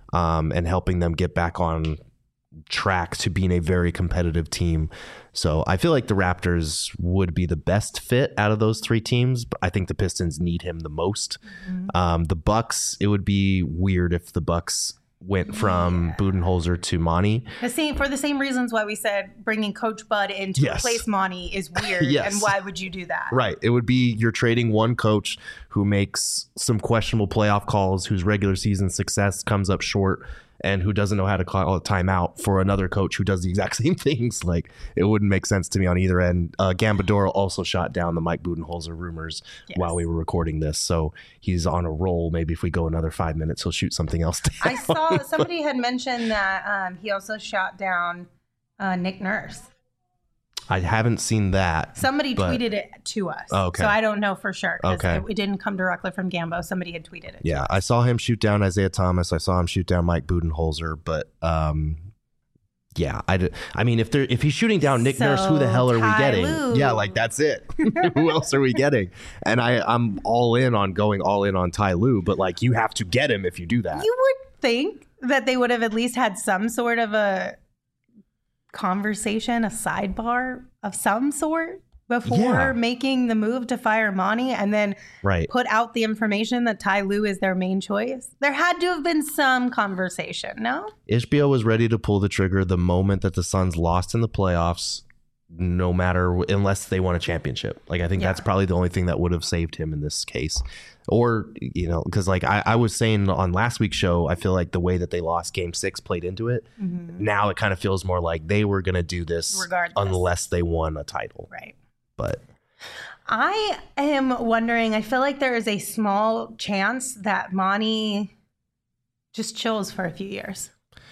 um, and helping them get back on track to being a very competitive team. So I feel like the Raptors would be the best fit out of those three teams, but I think the Pistons need him the most. Mm-hmm. Um, the Bucks, it would be weird if the Bucks went from yeah. Budenholzer to Monty. The same for the same reasons why we said bringing Coach Bud in to yes. replace Monty is weird. yes. And why would you do that? Right. It would be you're trading one coach who makes some questionable playoff calls, whose regular season success comes up short, and who doesn't know how to call a timeout for another coach who does the exact same things. Like, it wouldn't make sense to me on either end. Uh, Gambadoro also shot down the Mike Budenholzer rumors yes. while we were recording this. So he's on a roll. Maybe if we go another five minutes, he'll shoot something else down. I saw somebody had mentioned that um, he also shot down uh, Nick Nurse. I haven't seen that. Somebody but... tweeted it to us. Oh, okay. So I don't know for sure. Okay. It, it didn't come directly from Gambo. Somebody had tweeted it. Yeah, to us. I saw him shoot down Isaiah Thomas. I saw him shoot down Mike Budenholzer. But um, yeah, I, I mean, if they're if he's shooting down Nick so, Nurse, who the hell are Ty we getting? Lue. Yeah, like that's it. Who else are we getting? And I, I'm all in on going all in on Ty Lue. But like, you have to get him if you do that. You would think that they would have at least had some sort of a conversation, a sidebar of some sort before yeah. making the move to fire Monty and then right. put out the information that Ty Lue is their main choice. There had to have been some conversation, no? Ishbia was ready to pull the trigger the moment that the Suns lost in the playoffs, no matter, unless they won a championship. Like, I think yeah. that's probably the only thing that would have saved him in this case. Or, you know, because like I, I was saying on last week's show, I feel like the way that they lost game six played into it. Mm-hmm. Now it kind of feels more like they were going to do this regardless, unless they won a title. Right. But I am wondering, I feel like there is a small chance that Monty just chills for a few years.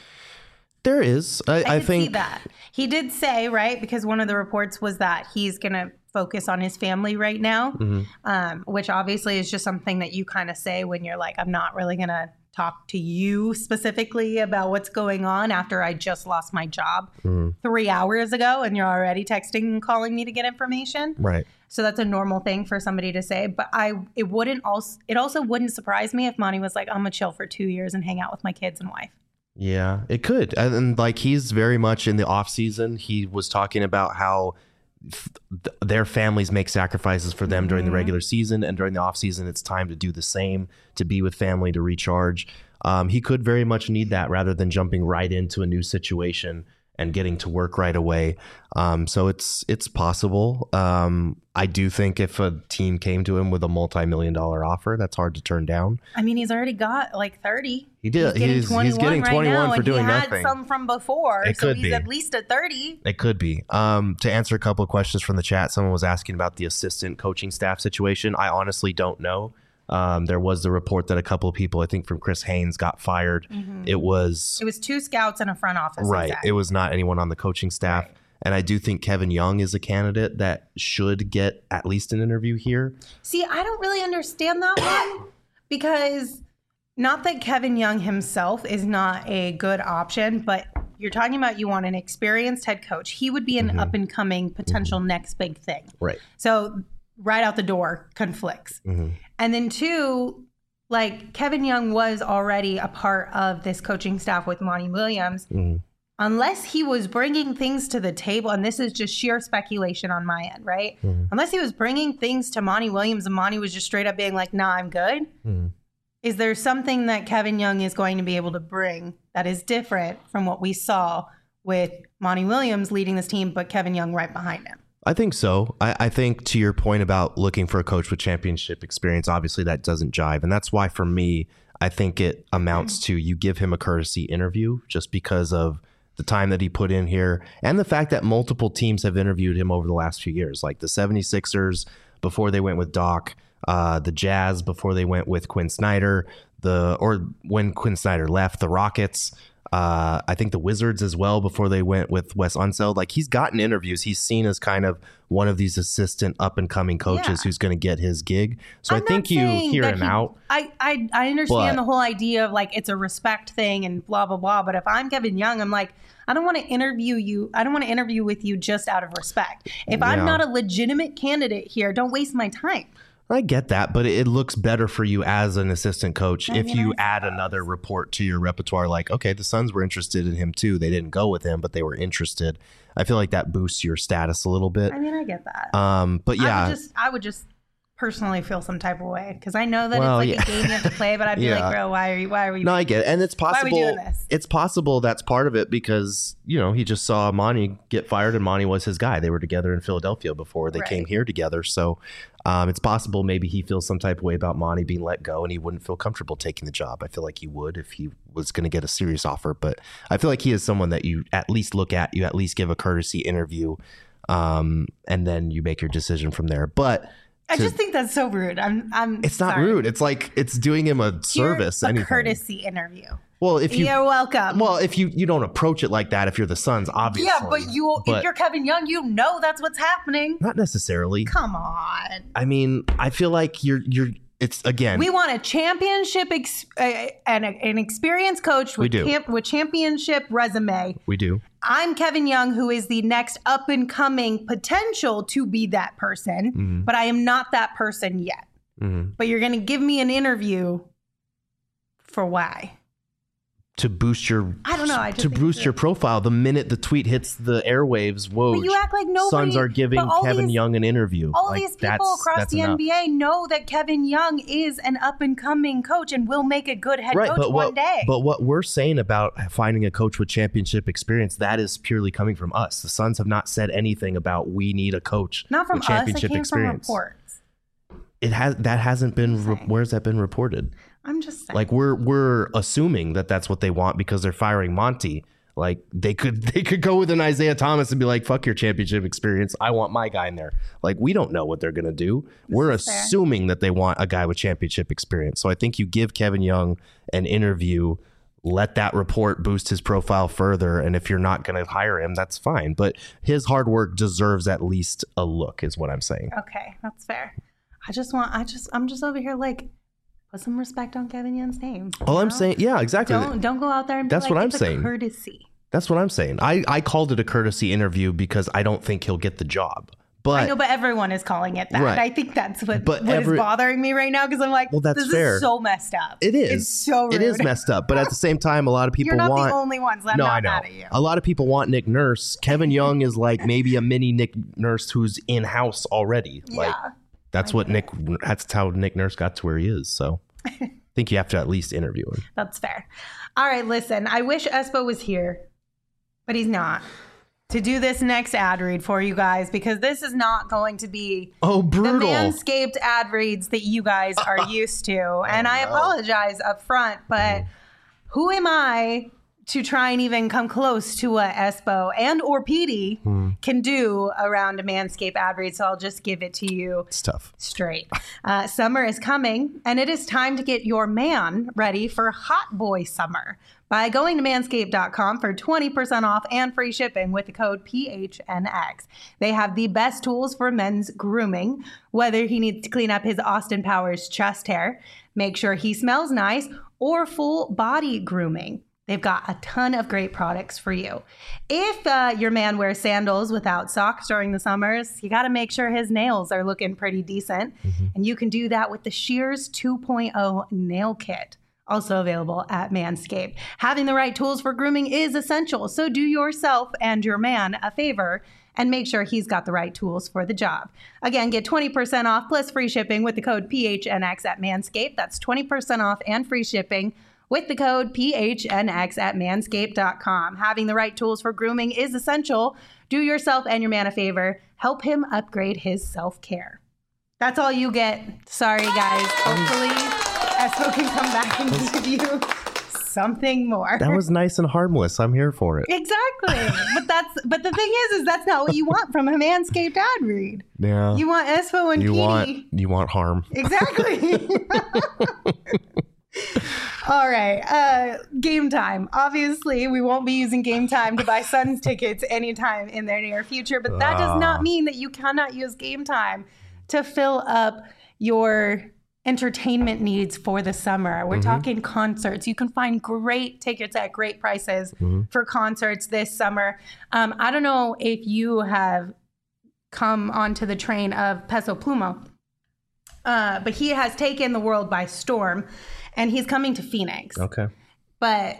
There is. I, I, I think see that. He did say, right, because one of the reports was that he's going to focus on his family right now, mm-hmm. um, which obviously is just something that you kind of say when you're like, I'm not really going to talk to you specifically about what's going on after I just lost my job mm-hmm. three hours ago and you're already texting and calling me to get information. Right. So that's a normal thing for somebody to say. But I, it wouldn't also, it also wouldn't surprise me if Monty was like, I'm going to chill for two years and hang out with my kids and wife. Yeah, it could. And, and like, he's very much in the off season. He was talking about how f- th- their families make sacrifices for them mm-hmm. during the regular season, and during the off season, it's time to do the same, to be with family, to recharge. Um, he could very much need that rather than jumping right into a new situation and getting to work right away. Um, so it's it's possible. Um, I do think if a team came to him with a multi-million dollar offer, that's hard to turn down. I mean, he's already got like thirty. He did. He's getting he's, twenty-one, he's getting twenty-one right now, for doing he had nothing. Some from before, it so could he's be. at least at thirty. It could be. Um, to answer a couple of questions from the chat, someone was asking about the assistant coaching staff situation. I honestly don't know. Um, there was the report that a couple of people, I think from Chris Haynes, got fired. Mm-hmm. It was it was two scouts and a front office. Right. Exactly. It was not anyone on the coaching staff. Right. And I do think Kevin Young is a candidate that should get at least an interview here. See, I don't really understand that one because not that Kevin Young himself is not a good option, but you're talking about you want an experienced head coach. He would be an mm-hmm. up and coming potential mm-hmm. next big thing. Right. So right out the door conflicts. Mm-hmm. And then two, like Kevin Young was already a part of this coaching staff with Monty Williams. Mm-hmm. Unless he was bringing things to the table, and this is just sheer speculation on my end, right? Mm-hmm. Unless he was bringing things to Monty Williams and Monty was just straight up being like, nah, I'm good. Mm-hmm. Is there something that Kevin Young is going to be able to bring that is different from what we saw with Monty Williams leading this team, but Kevin Young right behind him? I think so. I, I think to your point about looking for a coach with championship experience, obviously that doesn't jive. And that's why for me, I think it amounts to you give him a courtesy interview just because of the time that he put in here and the fact that multiple teams have interviewed him over the last few years, like the seventy-sixers before they went with Doc, uh, the Jazz before they went with Quinn Snyder, the or when Quinn Snyder left, the Rockets. Uh, I think the Wizards as well before they went with Wes Unseld. Like, he's gotten interviews. He's seen as kind of one of these assistant up and coming coaches yeah. who's going to get his gig. So I'm I think you hear him he, out. I, I, I understand but, the whole idea of like it's a respect thing and blah, blah, blah. But if I'm Kevin Young, I'm like, I don't want to interview you. I don't want to interview with you just out of respect. If yeah. I'm not a legitimate candidate here, don't waste my time. I get that, but it looks better for you as an assistant coach I if mean, you I add suppose. another report to your repertoire. Like, okay, the Suns were interested in him too. They didn't go with him, but they were interested. I feel like that boosts your status a little bit. I mean, I get that. Um, but yeah, I would just, I would just personally feel some type of way because I know that Well, it's like yeah. a game you have to play, but I'd be Yeah. like, bro, why are you? Why are we? no, I get it, and it's Why are we possible. doing this? It's possible that's part of it because you know he just saw Monty get fired, and Monty was his guy. They were together in Philadelphia before they Right. came here together, so. Um, it's possible maybe he feels some type of way about Monty being let go and he wouldn't feel comfortable taking the job. I feel like he would if he was going to get a serious offer. But I feel like he is someone that you at least look at, you at least give a courtesy interview, um, and then you make your decision from there. But I to- just think that's so rude. I'm. I'm. it's not sorry. rude. It's like it's doing him a Here's service. a anything. courtesy interview. Well, if you You're welcome. well, if you you don't approach it like that, if you're the Suns, obviously. yeah, but you, But if you're Kevin Young, you know that's what's happening. not necessarily. Come on. I mean, I feel like you're you're. It's again. We want a championship ex- uh, and a, an experienced coach We with, do. camp- with championship resume. we do. I'm Kevin Young, who is the next up and coming potential to be that person, Mm-hmm. but I am not that person yet. Mhm. But you're going to give me an interview for why? To boost your I don't know, I just to think boost that- your profile the minute the tweet hits the airwaves. Whoa! But you act like nobody. Suns are giving but all Kevin these, Young an interview. All Like, these people that's- across that's the enough. N B A know that Kevin Young is an up and coming coach and will make a good head Right, coach but one what day. but what we're saying about finding a coach with championship experience, that is purely coming from us. The Suns have not said anything about we need a coach Not from with us. It championship came experience. from reports. It has that hasn't been. Re- saying. where's that been reported? I'm just saying. Like we're we're assuming that that's what they want because they're firing Monty. Like they could they could go with an Isaiah Thomas and be like, fuck your championship experience. I want my guy in there. Like we don't know what they're gonna do. We're is fair. assuming that they want a guy with championship experience. So I think you give Kevin Young an interview, let that report boost his profile further. And if you're not gonna hire him, that's fine. But his hard work deserves at least a look, is what I'm saying. Okay, that's fair. I just want. I just. I'm just over here like. Put some respect on Kevin Young's name. All you I'm know? saying, yeah, exactly. Don't don't go out there and be That's like, what I'm it's a saying. courtesy. That's what I'm saying. I, I called it a courtesy interview because I don't think he'll get the job. But I know, but everyone is calling it that. Right. I think that's what, But what every- is bothering me right now because I'm like, Well, that's this fair. is so messed up. it is. It's so rude. It is messed up. But at the same time, a lot of people You're not want. the only ones. I'm no, not I know. mad at you. A lot of people want Nick Nurse. Kevin Young is like maybe a mini Nick Nurse who's in house already. Like Yeah. that's I what get Nick. That's how Nick Nurse got to where he is. So I think you have to at least interview him. That's fair. All right, listen. I wish Espo was here, but he's not. To do this next ad read for you guys because this is not going to be Oh, brutal! the Manscaped ad reads that you guys are used to. And I no. apologize up front, but who am I to try and even come close to what Espo and or Petey can do around a Manscaped ad read? So I'll just give it to you It's tough. straight. Uh, summer is coming, and it is time to get your man ready for hot boy summer by going to manscaped dot com for twenty percent off and free shipping with the code P H N X. They have the best tools for men's grooming, whether he needs to clean up his Austin Powers chest hair, make sure he smells nice, or full body grooming. They've got a ton of great products for you. If uh, your man wears sandals without socks during the summers, you got to make sure his nails are looking pretty decent. Mm-hmm. And you can do that with the Shears two point oh Nail Kit, also available at Manscaped. Having the right tools for grooming is essential, so do yourself and your man a favor and make sure he's got the right tools for the job. Again, get twenty percent off plus free shipping with the code P H N X at Manscaped. That's twenty percent off and free shipping with the code P H N X at manscaped dot com. Having the right tools for grooming is essential. Do yourself and your man a favor. Help him upgrade his self-care. That's all you get. Sorry, guys. Hopefully, Espo can come back and give you something more. That was nice and harmless. I'm here for it. Exactly. But that's but the thing is, is that's not what you want from a Manscaped ad read. Yeah. You want Espo and you Petey. want you want harm. Exactly. All right. Uh, game time. Obviously, we won't be using game time to buy Suns tickets anytime in their near future, but that does not mean that you cannot use game time to fill up your entertainment needs for the summer. We're talking concerts. You can find great tickets at great prices for concerts this summer. Um, I don't know if you have come onto the train of Peso Pluma. Uh, but he has taken the world by storm, and he's coming to Phoenix. Okay. But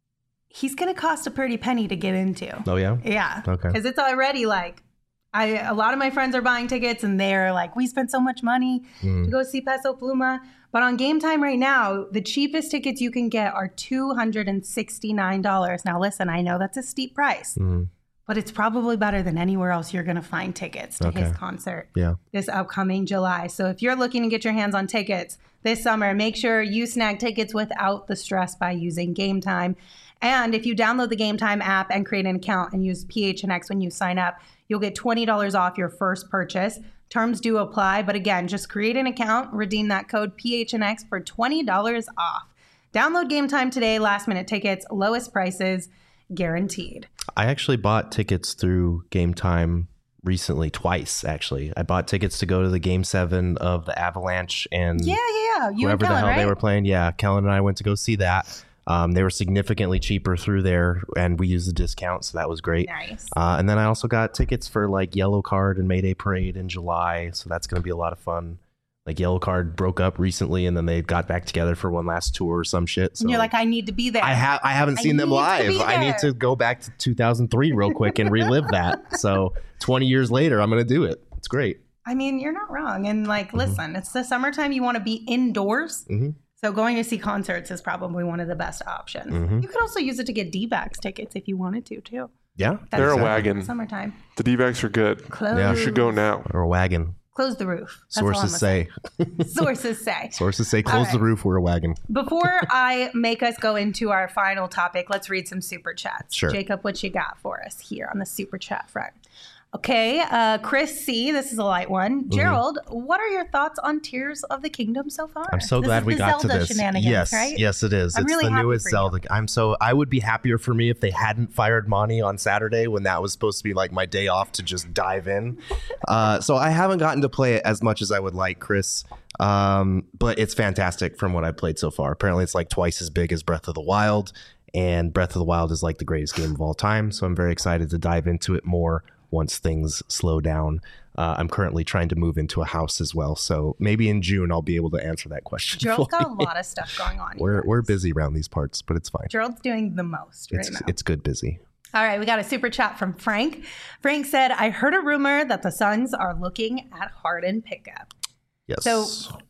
he's going to cost a pretty penny to get into. Oh, yeah? Yeah. Okay. Because it's already like, I a lot of my friends are buying tickets, and they're like, we spent so much money Mm. to go see Peso Pluma. But on Game Time right now, the cheapest tickets you can get are two hundred sixty-nine dollars. Now, listen, I know that's a steep price, Mm. but it's probably better than anywhere else you're going to find tickets to Okay. his concert Yeah. this upcoming July. So if you're looking to get your hands on tickets this summer, make sure you snag tickets without the stress by using Game Time. And if you download the Game Time app and create an account and use P H N X when you sign up, you'll get twenty dollars off your first purchase. Terms do apply, but again, just create an account, redeem that code P H N X for twenty dollars off. Download Game Time today, last minute tickets, lowest prices, guaranteed. I actually bought tickets through Game Time recently, twice, actually. I bought tickets to go to the Game seven of the Avalanche and Yeah, yeah, yeah. You whoever and the Kellen, hell right? they were playing. Yeah, Kellen and I went to go see that. Um, they were significantly cheaper through there, and we used the discount, so that was great. Nice. Uh, and then I also got tickets for like Yellow Card and Mayday Parade in July, so that's going to be a lot of fun. Like Yellow Card broke up recently, and then they got back together for one last tour or some shit. So And you're like, I need to be there. I have I haven't I seen them need to live. be I need there. to go back to two thousand three real quick and relive that. So twenty years later, I'm going to do it. It's great. I mean, you're not wrong. And like, Mm-hmm. listen, it's the summertime. You want to be indoors. Mhm. So going to see concerts is probably one of the best options. Mhm. You could also use it to get D-backs tickets if you wanted to, too. Yeah, That's They're a exactly. wagon. Summertime. The D-backs are good. Close. Yeah. You should go now. Or a wagon. Close the roof. That's all I'm Sources say. gonna say. Sources say. Sources say All close right. the roof. We're a wagon. Before I make us go into our final topic, let's read some super chats. Sure. Jacob, what you got for us here on the super chat front? Okay, uh, Chris C., this is a light one. Gerald, what are your thoughts on Tears of the Kingdom so far? Mm-hmm. I'm so This glad is we the got Zelda to this. Shenanigans, Yes, right? yes, it is. I'm it's really the happy newest for you. Zelda. I'm so I would be happier for me if they hadn't fired Monty on Saturday when that was supposed to be like my day off to just dive in. Uh, so I haven't gotten to play it as much as I would like, Chris. Um, but it's fantastic from what I've played so far. Apparently, it's like twice as big as Breath of the Wild, and Breath of the Wild is like the greatest game of all time. So I'm very excited to dive into it more once things slow down. Uh, I'm currently trying to move into a house as well, so maybe in June I'll be able to answer that question. Gerald's for got a you. lot of stuff going on. We're here. we're busy around these parts, but it's fine. Gerald's doing the most right It's now. it's good busy. All right, we got a super chat from Frank. Frank said, I heard a rumor that the Suns are looking at Harden pickup. Yes. So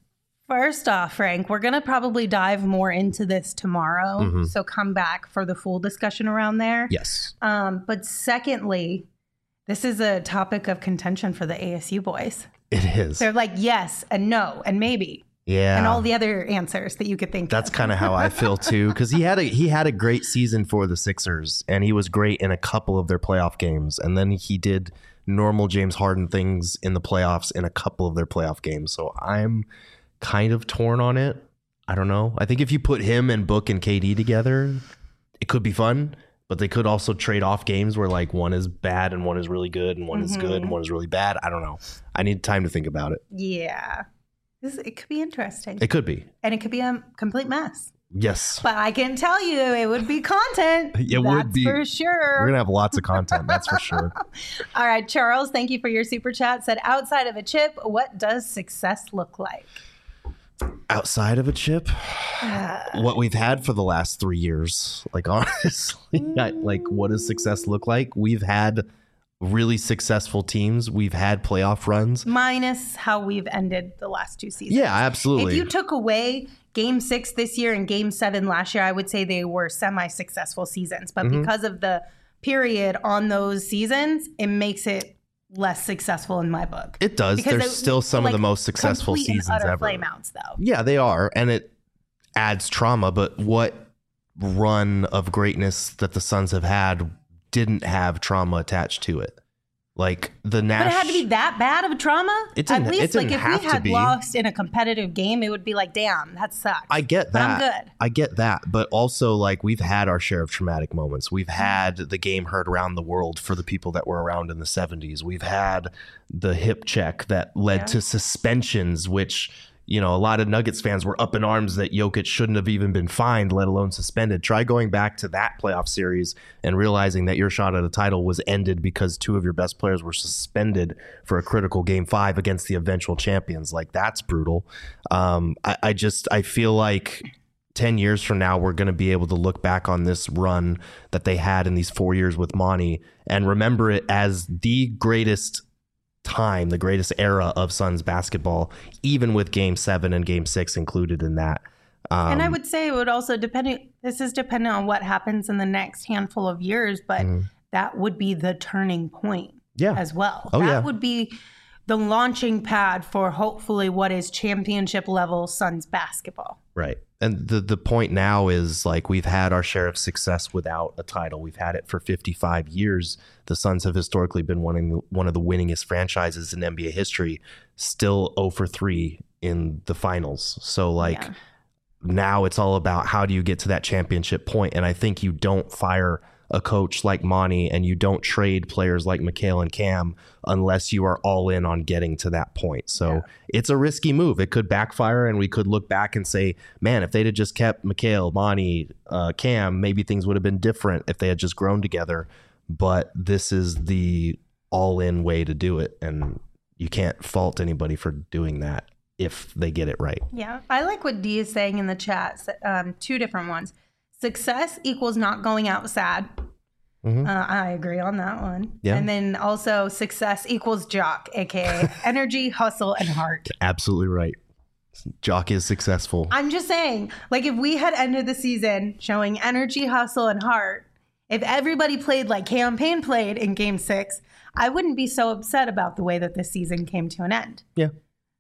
first off, Frank, we're going to probably dive more into this tomorrow. Mhm. So come back for the full discussion around there. yes. Um, but secondly, this is a topic of contention for the A S U boys. It is. They're like yes and no and maybe Yeah. and all the other answers that you could think That's of. kind of how I feel too, because he had a he had a great season for the Sixers, and he was great in a couple of their playoff games, and then he did normal James Harden things in the playoffs in a couple of their playoff games. So I'm kind of torn on it. I don't know. I think if you put him and Book and K D together, it could be fun. But they could also trade off games where like one is bad and one is really good, and one is good and one is really bad. I don't know. I need time to think about it. Yeah. This, it could be interesting. It could be. and it could be a complete mess. Yes. But I can tell you it would be content. It That's would be. for sure. We're going to have lots of content, that's for sure. All right, Charles, thank you for your super chat. Said, outside of a chip, what does success look like? Outside of a chip, what we've had for the last three years, like honestly, I, like what does success look like? We've had really successful teams. We've had playoff runs. Minus how we've ended the last two seasons. Yeah, absolutely. If you took away game six this year and game seven last year, I would say they were semi-successful seasons. But Mm-hmm. because of the period on those seasons, it makes it less successful in my book. It does. Because There's it- still some like, of the most successful complete and seasons utter ever. Flameouts, though. Yeah, they are. And it adds trauma. But what run of greatness that the Suns have had didn't have trauma attached to it? Like the Nash. But it had to be that bad of a trauma? It didn't- At least, it didn't like, if have we to had be. lost in a competitive game, it would be like, damn, that sucks. I get But I'm that. good. I get that. But also, like, we've had our share of traumatic moments. We've had the game heard around the world for the people that were around in the seventies. We've had the hip check that led Yeah. to suspensions, which, you know, a lot of Nuggets fans were up in arms that Jokic shouldn't have even been fined, let alone suspended. Try going back to that playoff series and realizing that your shot at a title was ended because two of your best players were suspended for a critical game five against the eventual champions. Like, that's brutal. Um, I, I just, I feel like ten years from now, we're going to be able to look back on this run that they had in these four years with Monty and remember it as the greatest time, the greatest era of Suns basketball, even with game seven and game six included in that. Um, and I would say it would also depend, this is dependent on what happens in the next handful of years, but mm. that would be the turning point yeah. as well. Oh, that yeah. would be the launching pad for hopefully what is championship level Suns basketball. Right. And the, the point now is, like, we've had our share of success without a title. We've had it for fifty-five years. The Suns have historically been one of the, one of the winningest franchises in N B A history, still zero for three in the finals. So, like, yeah. now it's all about how do you get to that championship point? And I think you don't fire a coach like Monty and you don't trade players like Mikal and Cam unless you are all in on getting to that point. So yeah. it's a risky move. It could backfire and we could look back and say, man, if they'd have just kept Mikal, Monty, uh, Cam, maybe things would have been different if they had just grown together. But this is the all-in way to do it. And you can't fault anybody for doing that if they get it right. Yeah. I like what Dee is saying in the chat. Um, two different ones. Success equals not going out sad. Mm-hmm. Uh, I agree on that one. Yeah. And then also success equals Jock, a k a energy, hustle, and heart. Absolutely right. Jock is successful. I'm just saying, like, if we had ended the season showing energy, hustle, and heart, if everybody played like Campaign played in game six, I wouldn't be so upset about the way that this season came to an end. Yeah,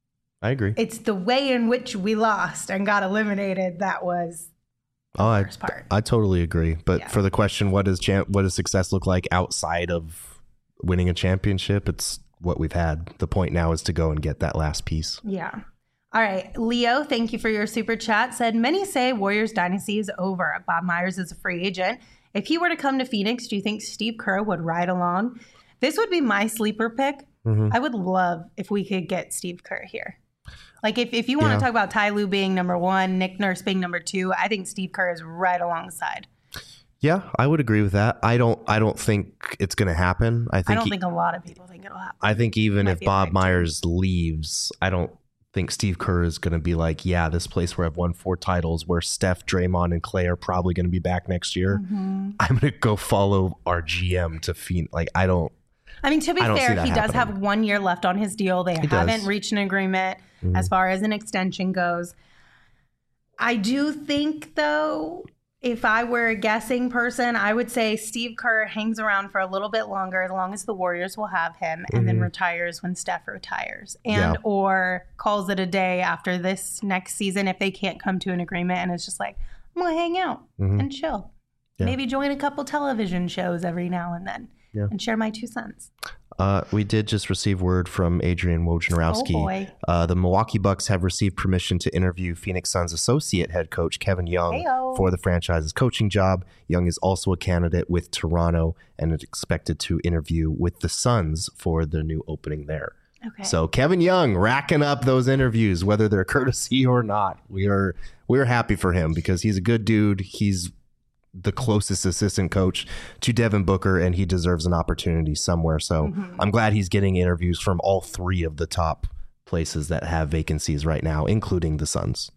I agree. It's the way in which we lost and got eliminated that was... Oh, I, I totally agree. But yeah. for the question, what does champ, what does success look like outside of winning a championship? It's what we've had. The point now is to go and get that last piece. Yeah. All right. Leo, thank you for your super chat. Said, many say Warriors dynasty is over. Bob Myers is a free agent. If he were to come to Phoenix, do you think Steve Kerr would ride along? This would be my sleeper pick. Mm-hmm. I would love if we could get Steve Kerr here. Like, if, if you want yeah. to talk about Ty Lue being number one, Nick Nurse being number two, I think Steve Kerr is right alongside. Yeah, I would agree with that. I don't I don't think it's going to happen. I think I don't he, think a lot of people think it'll happen. I think even if Bob Myers leaves, I don't think Steve Kerr is going to be like, yeah, this place where I've won four titles, where Steph, Draymond, and Clay are probably going to be back next year. Mm-hmm. I'm going to go follow our G M to Phoenix. Like, I don't. I mean, to be fair, he happening. does have one year left on his deal. They he haven't does. reached an agreement mm-hmm. as far as an extension goes. I do think, though, if I were a guessing person, I would say Steve Kerr hangs around for a little bit longer, as long as the Warriors will have him, and mm-hmm. then retires when Steph retires, and yeah. or calls it a day after this next season if they can't come to an agreement, and it's just like, I'm gonna hang out mm-hmm. and chill, yeah. maybe join a couple television shows every now and then. Yeah. And share my two cents. Uh, we did just receive word from Adrian Wojnarowski. Oh boy. Uh, the Milwaukee Bucks have received permission to interview Phoenix Suns associate head coach Kevin Young Hey-o. for the franchise's coaching job. Young is also a candidate with Toronto and is expected to interview with the Suns for the new opening there. Okay. So Kevin Young racking up those interviews, whether they're courtesy or not. We are we're happy for him because he's a good dude. He's the closest assistant coach to Devin Booker, and he deserves an opportunity somewhere. So mm-hmm. I'm glad he's getting interviews from all three of the top places that have vacancies right now, including the Suns.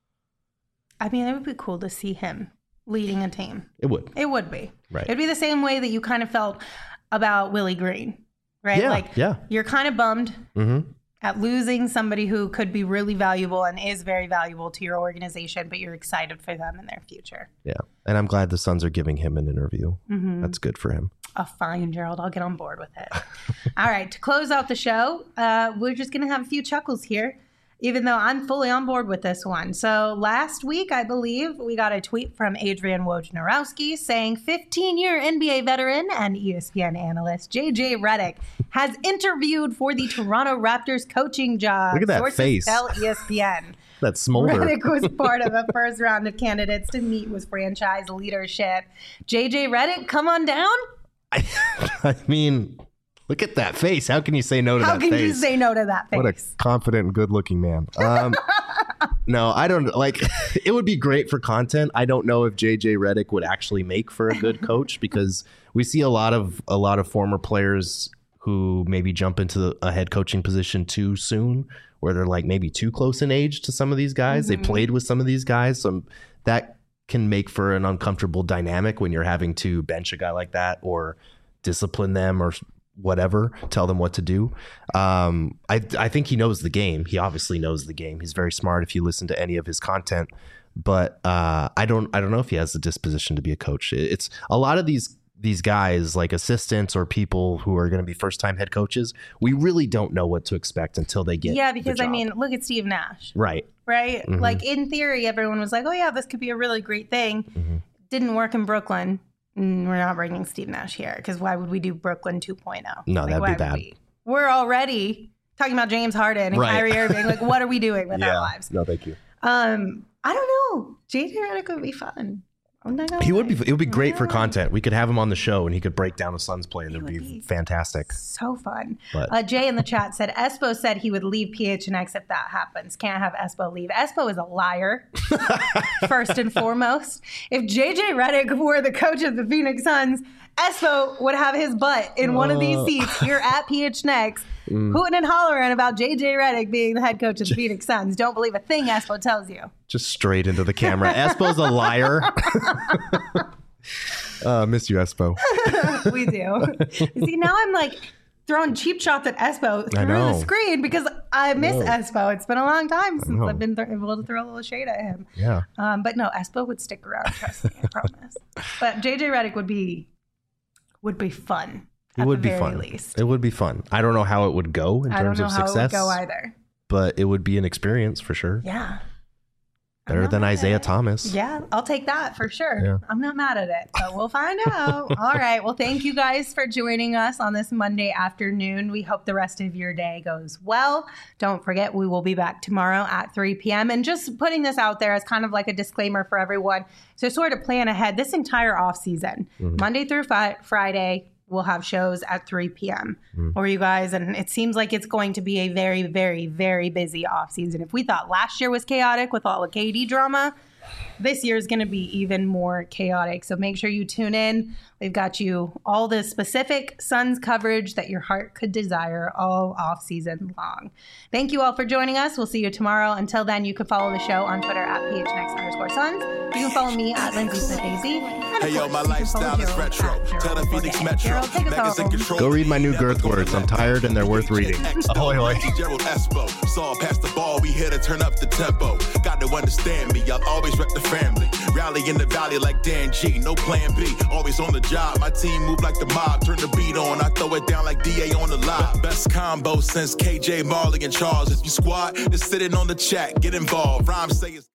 I mean, it would be cool to see him leading a team. It would. It would be. Right. It'd be the same way that you kind of felt about Willie Green, right? Yeah, like, yeah. you're kind of bummed mm-hmm. at losing somebody who could be really valuable and is very valuable to your organization, but you're excited for them and their future. Yeah. And I'm glad the Suns are giving him an interview. Mm-hmm. That's good for him. Oh, fine, Gerald. I'll get on board with it. All right. To close out the show, uh, we're just going to have a few chuckles here, even though I'm fully on board with this one. So last week, I believe, we got a tweet from Adrian Wojnarowski saying fifteen-year N B A veteran and E S P N analyst J J Redick has interviewed for the Toronto Raptors coaching job. Look at that Sources face. Tell E S P N. That smolder. Redick was part of a first round of candidates to meet with franchise leadership. J J Redick, come on down. I, I mean, look at that face. How can you say no to How that can face? you say no to that face? What a confident and good-looking man. Um, No, I don't like. It would be great for content. I don't know if J J Redick would actually make for a good coach because we see a lot of a lot of former players who maybe jump into the, a head coaching position too soon, where they're like maybe too close in age to some of these guys. Mm-hmm. They played with some of these guys, so that can make for an uncomfortable dynamic when you're having to bench a guy like that or discipline them or whatever, tell them what to do. Um, I I think he knows the game. He obviously knows the game. He's very smart if you listen to any of his content. But uh, I don't I don't know if he has the disposition to be a coach. It's a lot of these these guys like assistants or people who are going to be first time head coaches. We really don't know what to expect until they get yeah. Because the I job. mean, look at Steve Nash. Right. Right. Mm-hmm. Like in theory, everyone was like, "Oh yeah, this could be a really great thing." Mm-hmm. Didn't work in Brooklyn. We're not bringing Steve Nash here because why would we do Brooklyn two point oh? No, like, that'd be bad. We? We're already talking about James Harden and right. Kyrie Irving. Like, what are we doing with yeah. our lives? No, thank you. Um, I don't know. J J Redick would be fun. I'm not gonna he lie. would be. It would be great yeah. for content. We could have him on the show and he could break down the Suns play, and it would be, be fantastic. So fun. But, uh, Jay in the chat said Espo said he would leave P H N X if that happens. Can't have Espo leave. Espo is a liar. First and foremost, if J J Redick were the coach of the Phoenix Suns, Espo would have his butt in one of these seats here at P H N X, mm. hooting and hollering about J J Redick being the head coach of the Phoenix Suns. Don't believe a thing Espo tells you. Just straight into the camera. Espo's a liar. uh, miss you, Espo. We do. See, now I'm like throwing cheap shots at Espo through the screen because I miss I Espo. It's been a long time since I've been th- able to throw a little shade at him. Yeah. Um, but no, Espo would stick around. Trust me, I promise. But J J Redick would be would be fun. It would the be very fun. Least. It would be fun. I don't know how it would go in I terms don't know of how success. It would go either. But it would be an experience for sure. Yeah. Better than Isaiah Thomas. Yeah, I'll take that for sure. Yeah. I'm not mad at it, but we'll find out. All right. Well, thank you guys for joining us on this Monday afternoon. We hope the rest of your day goes well. Don't forget, we will be back tomorrow at three p.m. And just putting this out there as kind of like a disclaimer for everyone. So sort of plan ahead this entire off season, mm-hmm. Monday through fi- Friday. We'll have shows at three p.m. Mm. for you guys. And it seems like it's going to be a very, very, very busy off season. If we thought last year was chaotic with all the K D drama, this year is going to be even more chaotic. So make sure you tune in. We've got you all the specific Suns coverage that your heart could desire all off season long. Thank you all for joining us. We'll see you tomorrow. Until then, you can follow the show on Twitter at P H N X underscore Suns. You can follow me at Lindsay Smith A Z. Hey, yo, my lifestyle is retro. Tell the Phoenix Metro. Go read my new girth words. I'm tired and they're worth reading. Ahoy, ahoy. Gerald Espo. Saw past the ball. We here to turn up the tempo. Got to understand me. I'll always wreck the family. Rally in the valley like Dan G. No plan B. Always on the job. My team move like the mob. Turn the beat on. I throw it down like D A on the live. Best combo since K J, Marley, and Charles. If you squad, just sitting on the chat. Get involved. Rhyme say it's